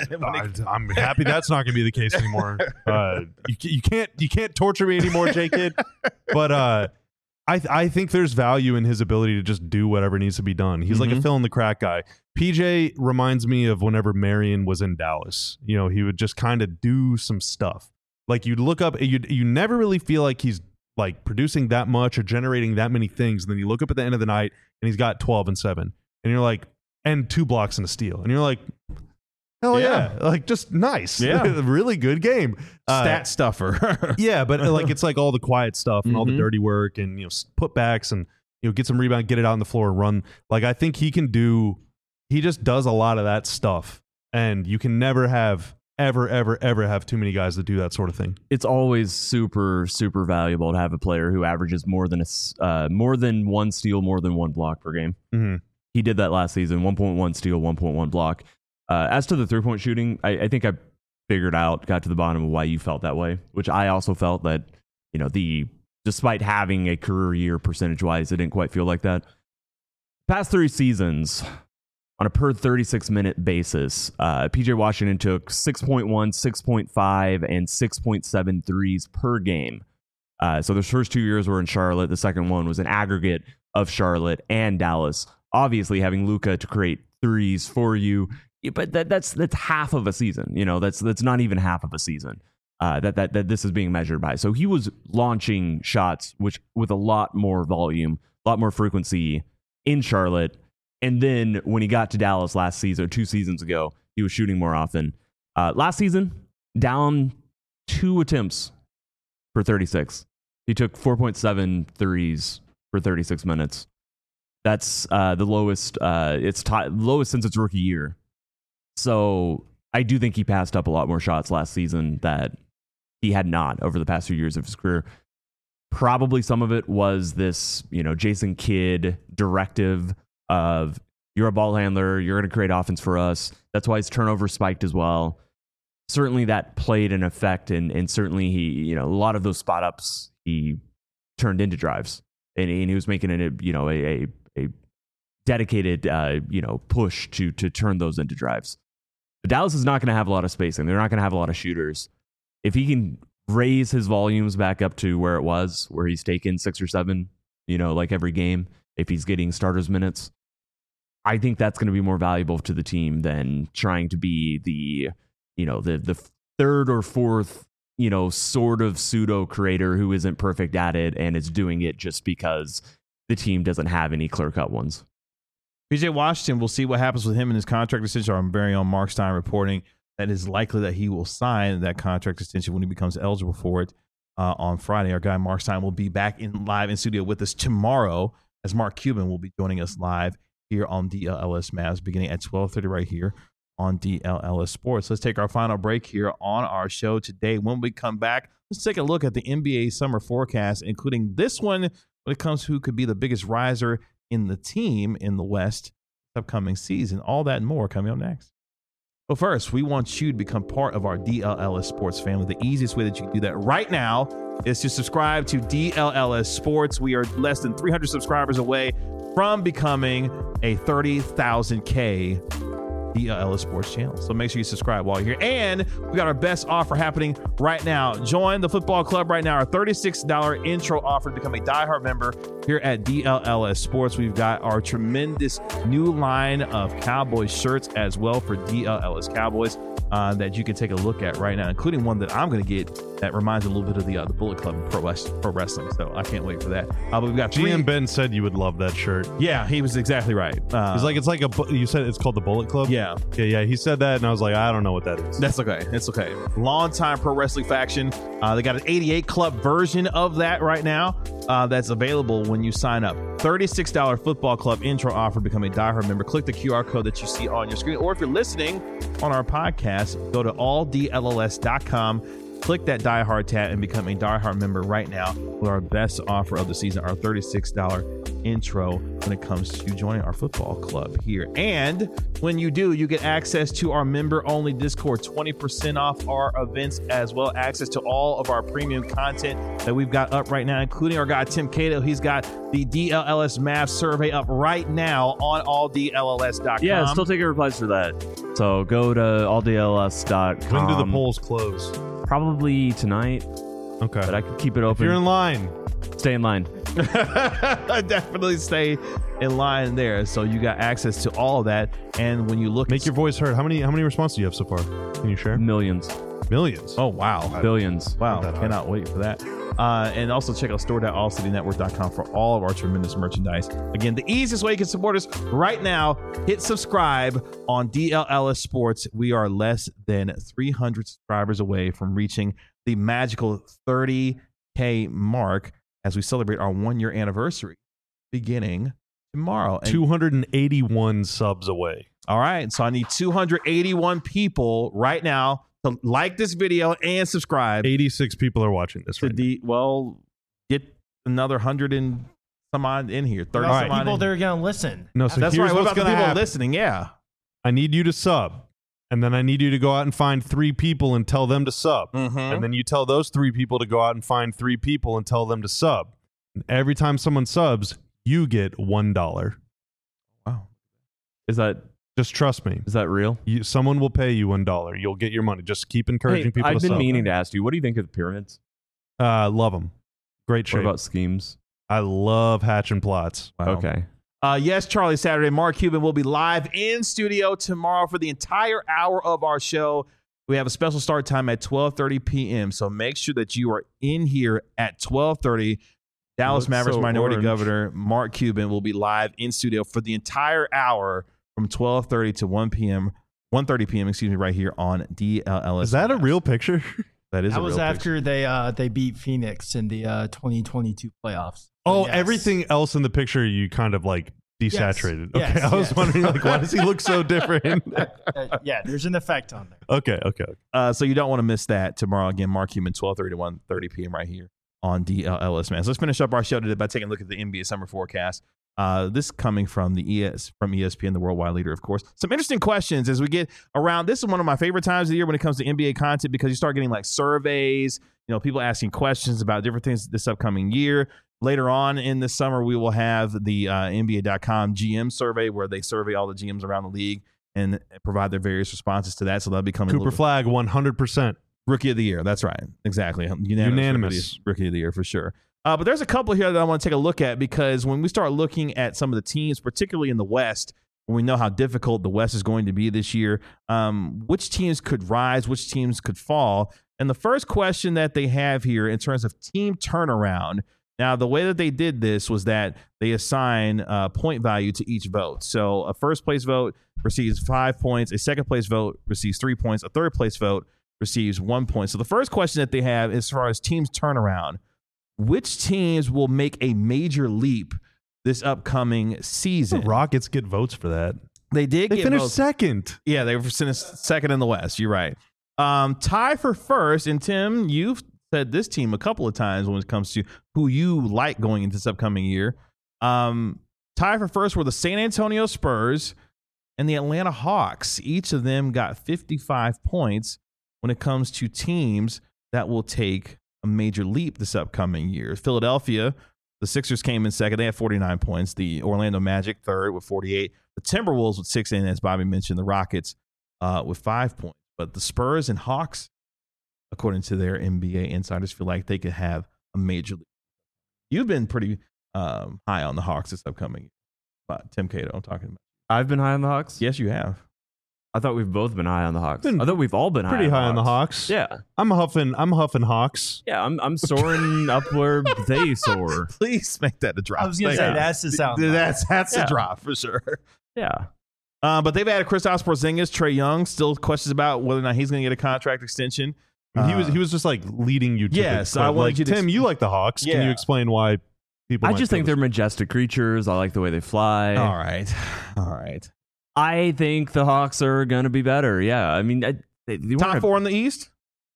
I'm happy that's not going to be the case anymore. You can't torture me anymore, J-Kid. But I think there's value in his ability to just do whatever needs to be done. He's like a fill in the crack guy. PJ reminds me of whenever Marion was in Dallas. You know, he would just kind of do some stuff. Like, you'd look up, you never really feel like he's like producing that much or generating that many things. And then you look up at the end of the night and he's got 12 and 7. And you're like, and 2 blocks and a steal. And you're like, hell yeah. Like, just nice. Yeah. Really good game. Stat stuffer. Yeah, but like, it's like all the quiet stuff and all the dirty work and, you know, putbacks and, you know, get some rebound, get it out on the floor and run. Like, I think he just does a lot of that stuff. And you can never have ever have too many guys that do that sort of thing. It's always super, super valuable to have a player who averages more than 1 steal, more than 1 block per game. Mm-hmm. He did that last season, 1.1 steal, 1.1 block. As to the 3-point shooting, I think I got to the bottom of why you felt that way, which I also felt that, you know, despite having a career year percentage-wise, it didn't quite feel like that. Past 3 seasons, on a per 36-minute basis, PJ Washington took 6.1, 6.5, and 6.7 threes per game. So the first 2 years were in Charlotte. The second one was an aggregate of Charlotte and Dallas. Obviously, having Luka to create threes for you, but that's half of a season. You know, that's not even half of a season that this is being measured by. So he was launching shots with a lot more volume, a lot more frequency in Charlotte. And then when he got to Dallas last season, 2 seasons ago, he was shooting more often. Last season, down 2 attempts for 36. He took 4.7 threes for 36 minutes. That's the lowest. It's lowest since its rookie year. So I do think he passed up a lot more shots last season that he had not over the past few years of his career. Probably some of it was this, you know, Jason Kidd directive of, you're a ball handler, you're going to create offense for us. That's why his turnover spiked as well. Certainly that played an effect, and certainly he, you know, a lot of those spot ups he turned into drives, and he was making it a dedicated push to turn those into drives. Dallas is not going to have a lot of spacing. They're not going to have a lot of shooters. If he can raise his volumes back up to where it was, where he's taken 6 or 7, like every game, if he's getting starters minutes, I think that's going to be more valuable to the team than trying to be the third or fourth, sort of pseudo creator who isn't perfect at it and is doing it just because the team doesn't have any clear-cut ones. PJ Washington, we'll see what happens with him in his contract extension. Our very own Mark Stein reporting that it is likely that he will sign that contract extension when he becomes eligible for it on Friday. Our guy Mark Stein will be back live in studio with us tomorrow, as Mark Cuban will be joining us live here on DLLS Mavs beginning at 12:30 right here on DLLS Sports. Let's take our final break here on our show today. When we come back, let's take a look at the NBA summer forecast, including this one when it comes to who could be the biggest riser in the team in the West upcoming season. All that and more coming up next. But first, we want you to become part of our DLLS Sports family. The easiest way that you can do that right now is to subscribe to DLLS Sports. We are less than 300 subscribers away from becoming a 30,000K DLLS Sports channel. So make sure you subscribe while you're here. And we got our best offer happening right now. Join the football club right now. Our $36 intro offer to become a diehard member here at DLLS Sports. We've got our tremendous new line of Cowboys shirts as well for DLLS Cowboys that you can take a look at right now, including one that I'm going to get that reminds a little bit of the Bullet Club and pro wrestling. So I can't wait for that. But we've got GM Ben said you would love that shirt. Yeah, he was exactly right. It's like you said it's called the Bullet Club. Yeah. He said that, and I was like, I don't know what that is. That's okay. It's okay. Long-time pro wrestling faction. They got an 88 Club version of that right now. That's available when you sign up. $36 football club intro offer. Become a diehard member. Click the QR code that you see on your screen, or if you're listening on our podcast, go to alldlls.com. Click that Die Hard tab and become a Die Hard member right now with our best offer of the season, our $36 intro when it comes to joining our football club here. And when you do, you get access to our member-only Discord, 20% off our events, as well access to all of our premium content that we've got up right now, including our guy Tim Cato. He's got the DLLS Mavs survey up right now on alldlls.com. Yeah, still taking replies for that. So go to alldls.com. When do the polls close? Probably tonight. Okay. But I could keep it open. If you're in line. Stay in line. Definitely stay in line there. So you got access to all of that. And when you look, make your voice heard. How many responses do you have so far? Can you share? Millions. Oh, wow. Billions. Wow. Cannot wait for that. And also check out store.allcitynetwork.com for all of our tremendous merchandise. Again, the easiest way you can support us right now, hit subscribe on DLLS Sports. We are less than 300 subscribers away from reaching the magical 30K mark as we celebrate our 1-year anniversary beginning tomorrow. 281 subs away. All right. So I need 281 people right now to like this video and subscribe. 86 people are watching this right now. Get another 100 and some odd in here. 30 some people that are going to listen. No, so that's here's right. What what's about the going to people happen. listening? Yeah. I need you to sub. And then I need you to go out and find 3 people and tell them to sub. Mm-hmm. And then you tell those 3 people to go out and find 3 people and tell them to sub. And every time someone subs, you get $1. Wow. Is that... Just trust me. Is that real? Someone will pay you $1. You'll get your money. Just keep encouraging people to I've sub. been meaning to ask you, what do you think of the pyramids? Love them. Great shape. What about schemes? I love hatching plots. Wow. Okay. Yes, Charlie Saturday. Mark Cuban will be live in studio tomorrow for the entire hour of our show. We have a special start time at 12:30 p.m. So make sure that you are in here at 12:30. Dallas Mavericks Minority Governor Mark Cuban will be live in studio for the entire hour from 12:30 to 1:30 p.m. Excuse me, right here on DLLS. Is that a real picture? That is. That a was real after picture. they beat Phoenix in the 2022 playoffs. Oh, Yes. everything else in the picture you kind of like desaturated. Yes. Okay, Yes, I was yes. wondering like why does he look so different? Yeah, there's an effect on there. Okay. So you don't want to miss that tomorrow. Again, Mark Cuban, 12:30 to 1:30 p.m. right here on DLLS, man. So let's finish up our show today by taking a look at the NBA summer forecast. This coming from from ESPN, the worldwide leader, of course. Some interesting questions as we get around. This is one of my favorite times of the year when it comes to NBA content because you start getting like surveys, people asking questions about different things this upcoming year. Later on in the summer, we will have the NBA.com GM survey where they survey all the GMs around the league and provide their various responses to that. So they'll be coming. Cooper Flagg, 100%. Rookie of the year. That's right. Exactly. Unanimous. Rookie of the year for sure. But there's a couple here that I want to take a look at, because when we start looking at some of the teams, particularly in the West, when we know how difficult the West is going to be this year, which teams could rise, which teams could fall. And the first question that they have here in terms of team turnaround, now the way that they did this was that they assign point value to each vote. So a first place vote receives 5 points, a second place vote receives 3 points, a third place vote receives 1 point. So the first question that they have as far as teams turnaround, which teams will make a major leap this upcoming season? The Rockets get votes for that. They did. They finished second. Yeah, they finished second in the West. You're right. Tie for first. And Tim, you've said this team a couple of times when it comes to who you like going into this upcoming year. Tie for first were the San Antonio Spurs and the Atlanta Hawks. Each of them got 55 points when it comes to teams that will take a major leap this upcoming year. Philadelphia, the Sixers came in second. They had 49 points. The Orlando Magic third with 48. The Timberwolves with 6, and as Bobby mentioned, the Rockets with 5 points. But the Spurs and Hawks, according to their NBA insiders, feel like they could have a major leap. You've been pretty high on the Hawks this upcoming year. But Tim Cato, I'm talking about. I've been high on the Hawks? Yes, you have. I thought we've both been high on the Hawks. I thought we've all been pretty high on the Hawks. Yeah. I'm huffing Hawks. Yeah, I'm soaring up where they soar. Please make that a drop. I was going to say, that's the sound. That's a drop for sure. Yeah. But they've added Kristaps Porzingis, Trae Young. Still questions about whether or not he's going to get a contract extension. He was just like leading you to yes, the I wanted like, you to Tim, you like the Hawks. Yeah. Can you explain why people I just think they're majestic creatures. I like the way they fly. All right. I think the Hawks are going to be better. Yeah. I mean, top 4 in the East?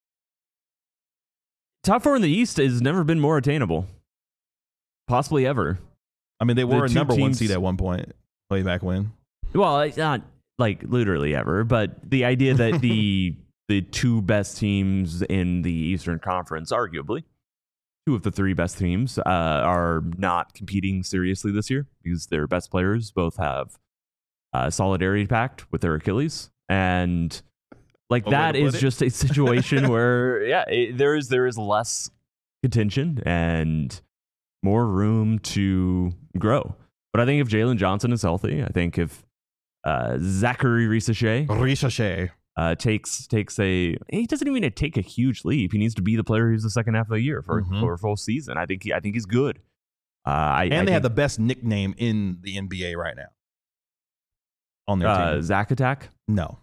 Top 4 in the East has never been more attainable. Possibly ever. I mean, they were a number 1 teams, seed at one point, way back when. Well, it's not like literally ever, but the idea that the 2 best teams in the Eastern Conference, arguably, 2 of the 3 best teams are not competing seriously this year because their best players both have solidarity pact with their Achilles, and like that is just a situation where there is less contention and more room to grow. But I think if Jalen Johnson is healthy, I think if Zachary Risacher takes he doesn't even need to take a huge leap. He needs to be the player who's the second half of the year for a full season. I think he's good. I they think have the best nickname in the NBA right now. On their team. Zach Attack? No.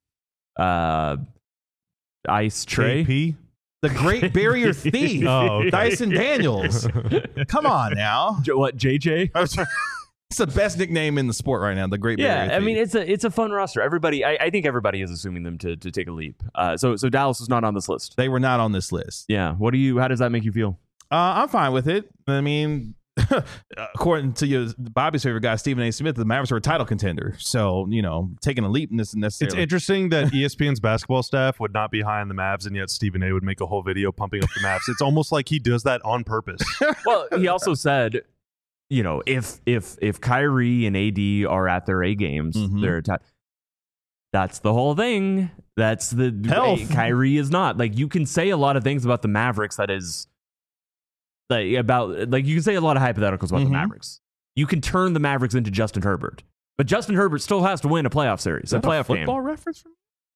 Ice Tray? KP? The Great Barrier Thief. Oh, okay. Dyson Daniels. Come on now. What, JJ? It's the best nickname in the sport right now, the Great Barrier Thief. Yeah, I mean, it's a fun roster. Everybody, I think everybody is assuming them to take a leap. So Dallas was not on this list. They were not on this list. Yeah. How does that make you feel? I'm fine with it. I mean, according to Bobby's favorite guy, Stephen A. Smith, the Mavericks are a title contender. So, taking a leap isn't necessarily. It's interesting that ESPN's basketball staff would not be high on the Mavs, and yet Stephen A. would make a whole video pumping up the Mavs. It's almost like he does that on purpose. Well, he also said, if Kyrie and AD are at their A games, they're that's the whole thing. That's the health. Kyrie is not. Like, you can say a lot of things about the Mavericks that is you can say a lot of hypotheticals about the Mavericks. You can turn the Mavericks into Justin Herbert, but Justin Herbert still has to win a playoff series, a playoff game. Football reference from?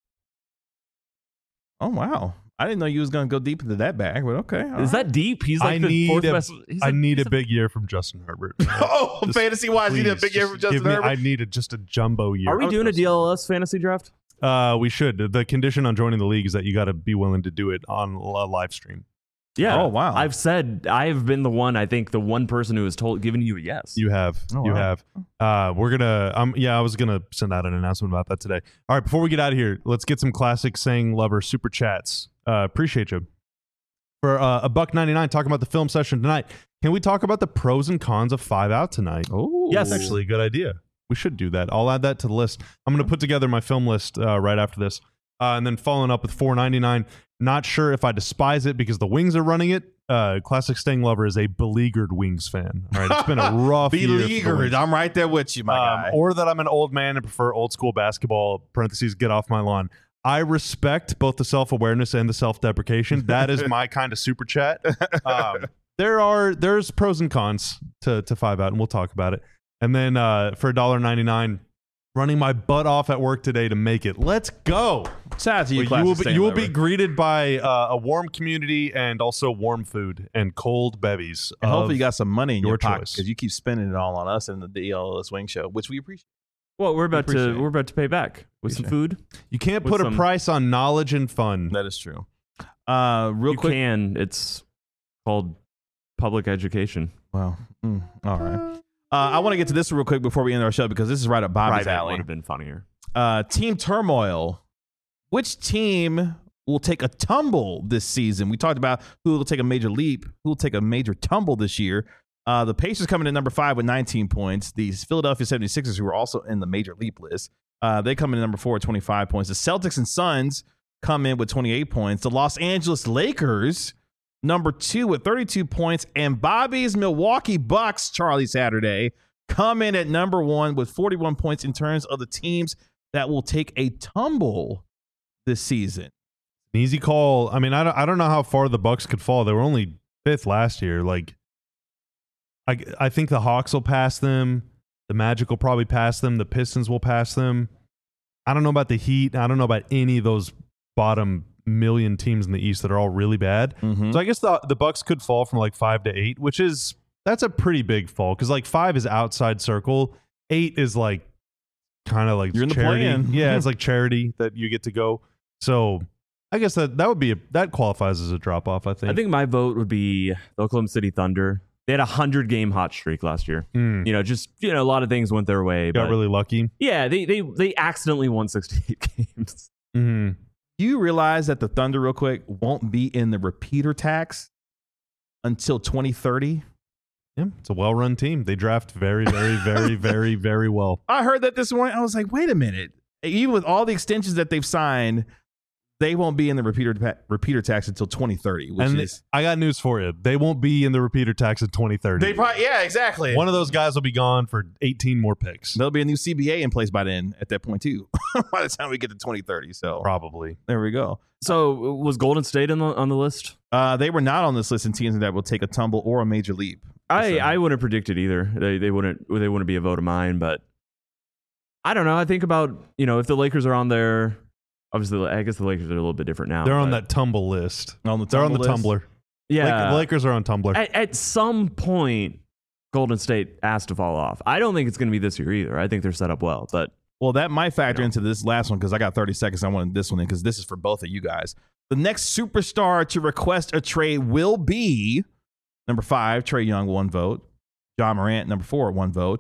Oh wow, I didn't know you was going to go deep into that bag, but okay. Is that deep? He's like the fourth best. I need a big year from Justin Herbert. Fantasy wise, you need a big year from Justin Herbert. I need just a jumbo year. Are we doing a DLS fantasy draft? We should. The condition on joining the league is that you got to be willing to do it on a live stream. Yeah. Oh wow. I've been the one person who has given you a yes. You have. Oh, you wow. have. We're gonna. I was gonna send out an announcement about that today. All right. Before we get out of here, let's get some classic Saying Lover super chats. Appreciate you. For $1.99, talking about the film session tonight. Can we talk about the pros and cons of 5 Out tonight? Oh, yes, actually, a good idea. We should do that. I'll add that to the list. I'm going to put together my film list right after this. And then following up with $4.99. Not sure if I despise it because the Wings are running it, Classic Sting Lover is a beleaguered Wings fan. All right, it's been a rough year. Beleaguered. I'm right there with you, my guy. Or that I'm an old man and prefer old school basketball. Parentheses, get off my lawn. I respect both the self-awareness and the self-deprecation. That is my kind of super chat. There's pros and cons to 5-Out, and we'll talk about it. And then for $1.99, running my butt off at work today to make it. Let's go. Shout out to you, You will be greeted by a warm community and also warm food and cold bevies. And hopefully you got some money in your pocket choice. because you keep spending it all on us and the DLLS Wing Show, which we appreciate. Well, we're about to pay back with some food. You can't put a price on knowledge and fun. That is true. Real quick. You can. It's called public education. Wow. All right. I want to get to this real quick before we end our show because this is right up Bobby's alley. Would have been funnier. Team turmoil. Which team will take a tumble this season? We talked about who will take a major leap, who will take a major tumble this year. The Pacers coming in number 5 with 19 points. The Philadelphia 76ers, who are also in the major leap list, they come in number 4 with 25 points. The Celtics and Suns come in with 28 points. The Los Angeles Lakers, number 2 with 32 points. And Bobby's Milwaukee Bucks, Charlie Saturday, come in at number 1 with 41 points in terms of the teams that will take a tumble this season. An easy call. I mean, I don't know how far the Bucks could fall. They were only 5th last year. Like, I think the Hawks will pass them. The Magic will probably pass them. The Pistons will pass them. I don't know about the Heat. I don't know about any of those bottom million teams in the East that are all really bad. Mm-hmm. So I guess the Bucks could fall from like 5 to 8, that's a pretty big fall because like 5 is outside circle. 8 is like kind of like you're in charity. The play-in. Yeah, it's like charity that you get to go. So I guess that would be that qualifies as a drop off. I think my vote would be the Oklahoma City Thunder. They had a 100-game hot streak last year. A lot of things went their way. Got really lucky. Yeah, they accidentally won 68 games. Mm-hmm. Do you realize that the Thunder, real quick, won't be in the repeater tax until 2030? Yeah, it's a well-run team. They draft very, very, very, very, very well. I heard that this morning. I was like, wait a minute. Even with all the extensions that they've signed, they won't be in the repeater tax until 2030. I got news for you. They won't be in the repeater tax in 2030. Yeah, exactly. One of those guys will be gone for 18 more picks. There'll be a new CBA in place by then. At that point, too. By the time we get to 2030, so probably there we go. So was Golden State on the list? They were not on this list in teams that will take a tumble or a major leap. I wouldn't predict it either. They wouldn't be a vote of mine, but I don't know. I think about if the Lakers are on there. Obviously, I guess the Lakers are a little bit different now. They're on that tumble list. They're on the Tumblr. Yeah, the Lakers are on Tumblr. At some point, Golden State has to fall off. I don't think it's going to be this year either. I think they're set up well, but that might factor into this last one because I got 30 seconds. I wanted this one in because this is for both of you guys. The next superstar to request a trade will be number 5, Trae Young, 1 vote. John Morant, number 4, 1 vote.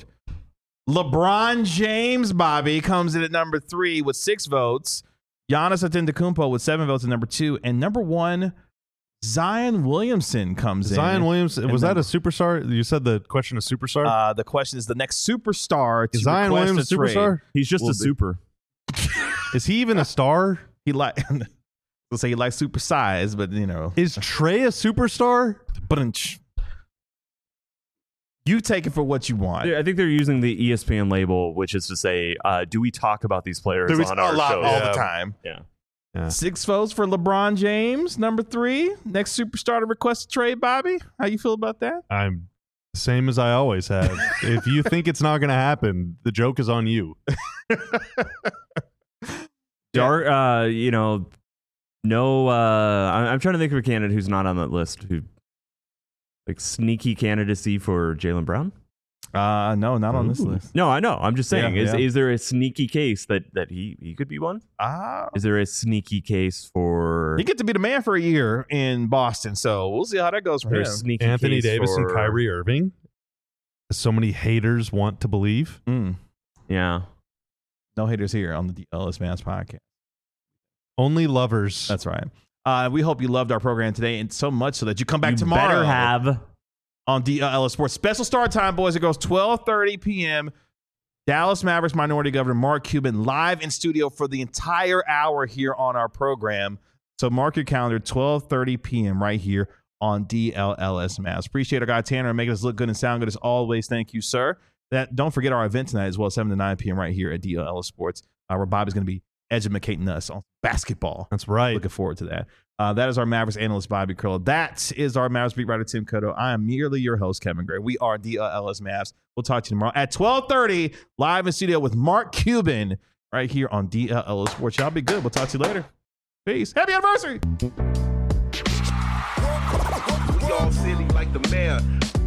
LeBron James, Bobby, comes in at number 3 with 6 votes. Giannis Antetokounmpo with 7 votes at number 2. And number 1, Zion Williamson comes in. Zion Williamson, was that a superstar? You said the question is superstar? The question is the next superstar to is Zion Williamson a superstar? He's just a super. Is he even a star? We'll say he likes super size, but Is Trae a superstar? But you take it for what you want. I think they're using the ESPN label, which is to say, do we talk about these players on our show all the time? Yeah. 6 votes for LeBron James, number 3. Next superstar to request a trade, Bobby. How you feel about that? I'm the same as I always have. If you think it's not going to happen, the joke is on you. I'm trying to think of a candidate who's not on that list who. Like sneaky candidacy for Jaylen Brown? No, not on this list. No, I know. I'm just saying. Yeah. Is there a sneaky case that he could be one? Is there a sneaky case for? You get to be the man for a year in Boston, so we'll see how that goes for him. Sneaky Anthony case Davis for... and Kyrie Irving. So many haters want to believe. Yeah. No haters here on the DLS Mavs podcast. Only lovers. That's right. We hope you loved our program today, and so much so that you come back tomorrow. Better have on DLS Sports. Special start time, boys. It goes 12:30 p.m. Dallas Mavericks minority governor Mark Cuban live in studio for the entire hour here on our program. So mark your calendar, 12:30 p.m. right here on DLLS Mavs. Appreciate our guy Tanner making us look good and sound good as always. Thank you, sir. Don't forget our event tonight as well, 7 to 9 p.m. right here at DLLS Sports, where Bobby's going to be educating us on basketball. That's right. Looking forward to that. That is our Mavericks analyst, Bobby Curl. That is our Mavericks beat writer, Tim Cotto. I am merely your host, Kevin Gray. We are DLLS Mavs. We'll talk to you tomorrow at 12:30, live in studio with Mark Cuban right here on DLLS Sports. Y'all be good. We'll talk to you later. Peace. Happy anniversary. We all silly like the mayor.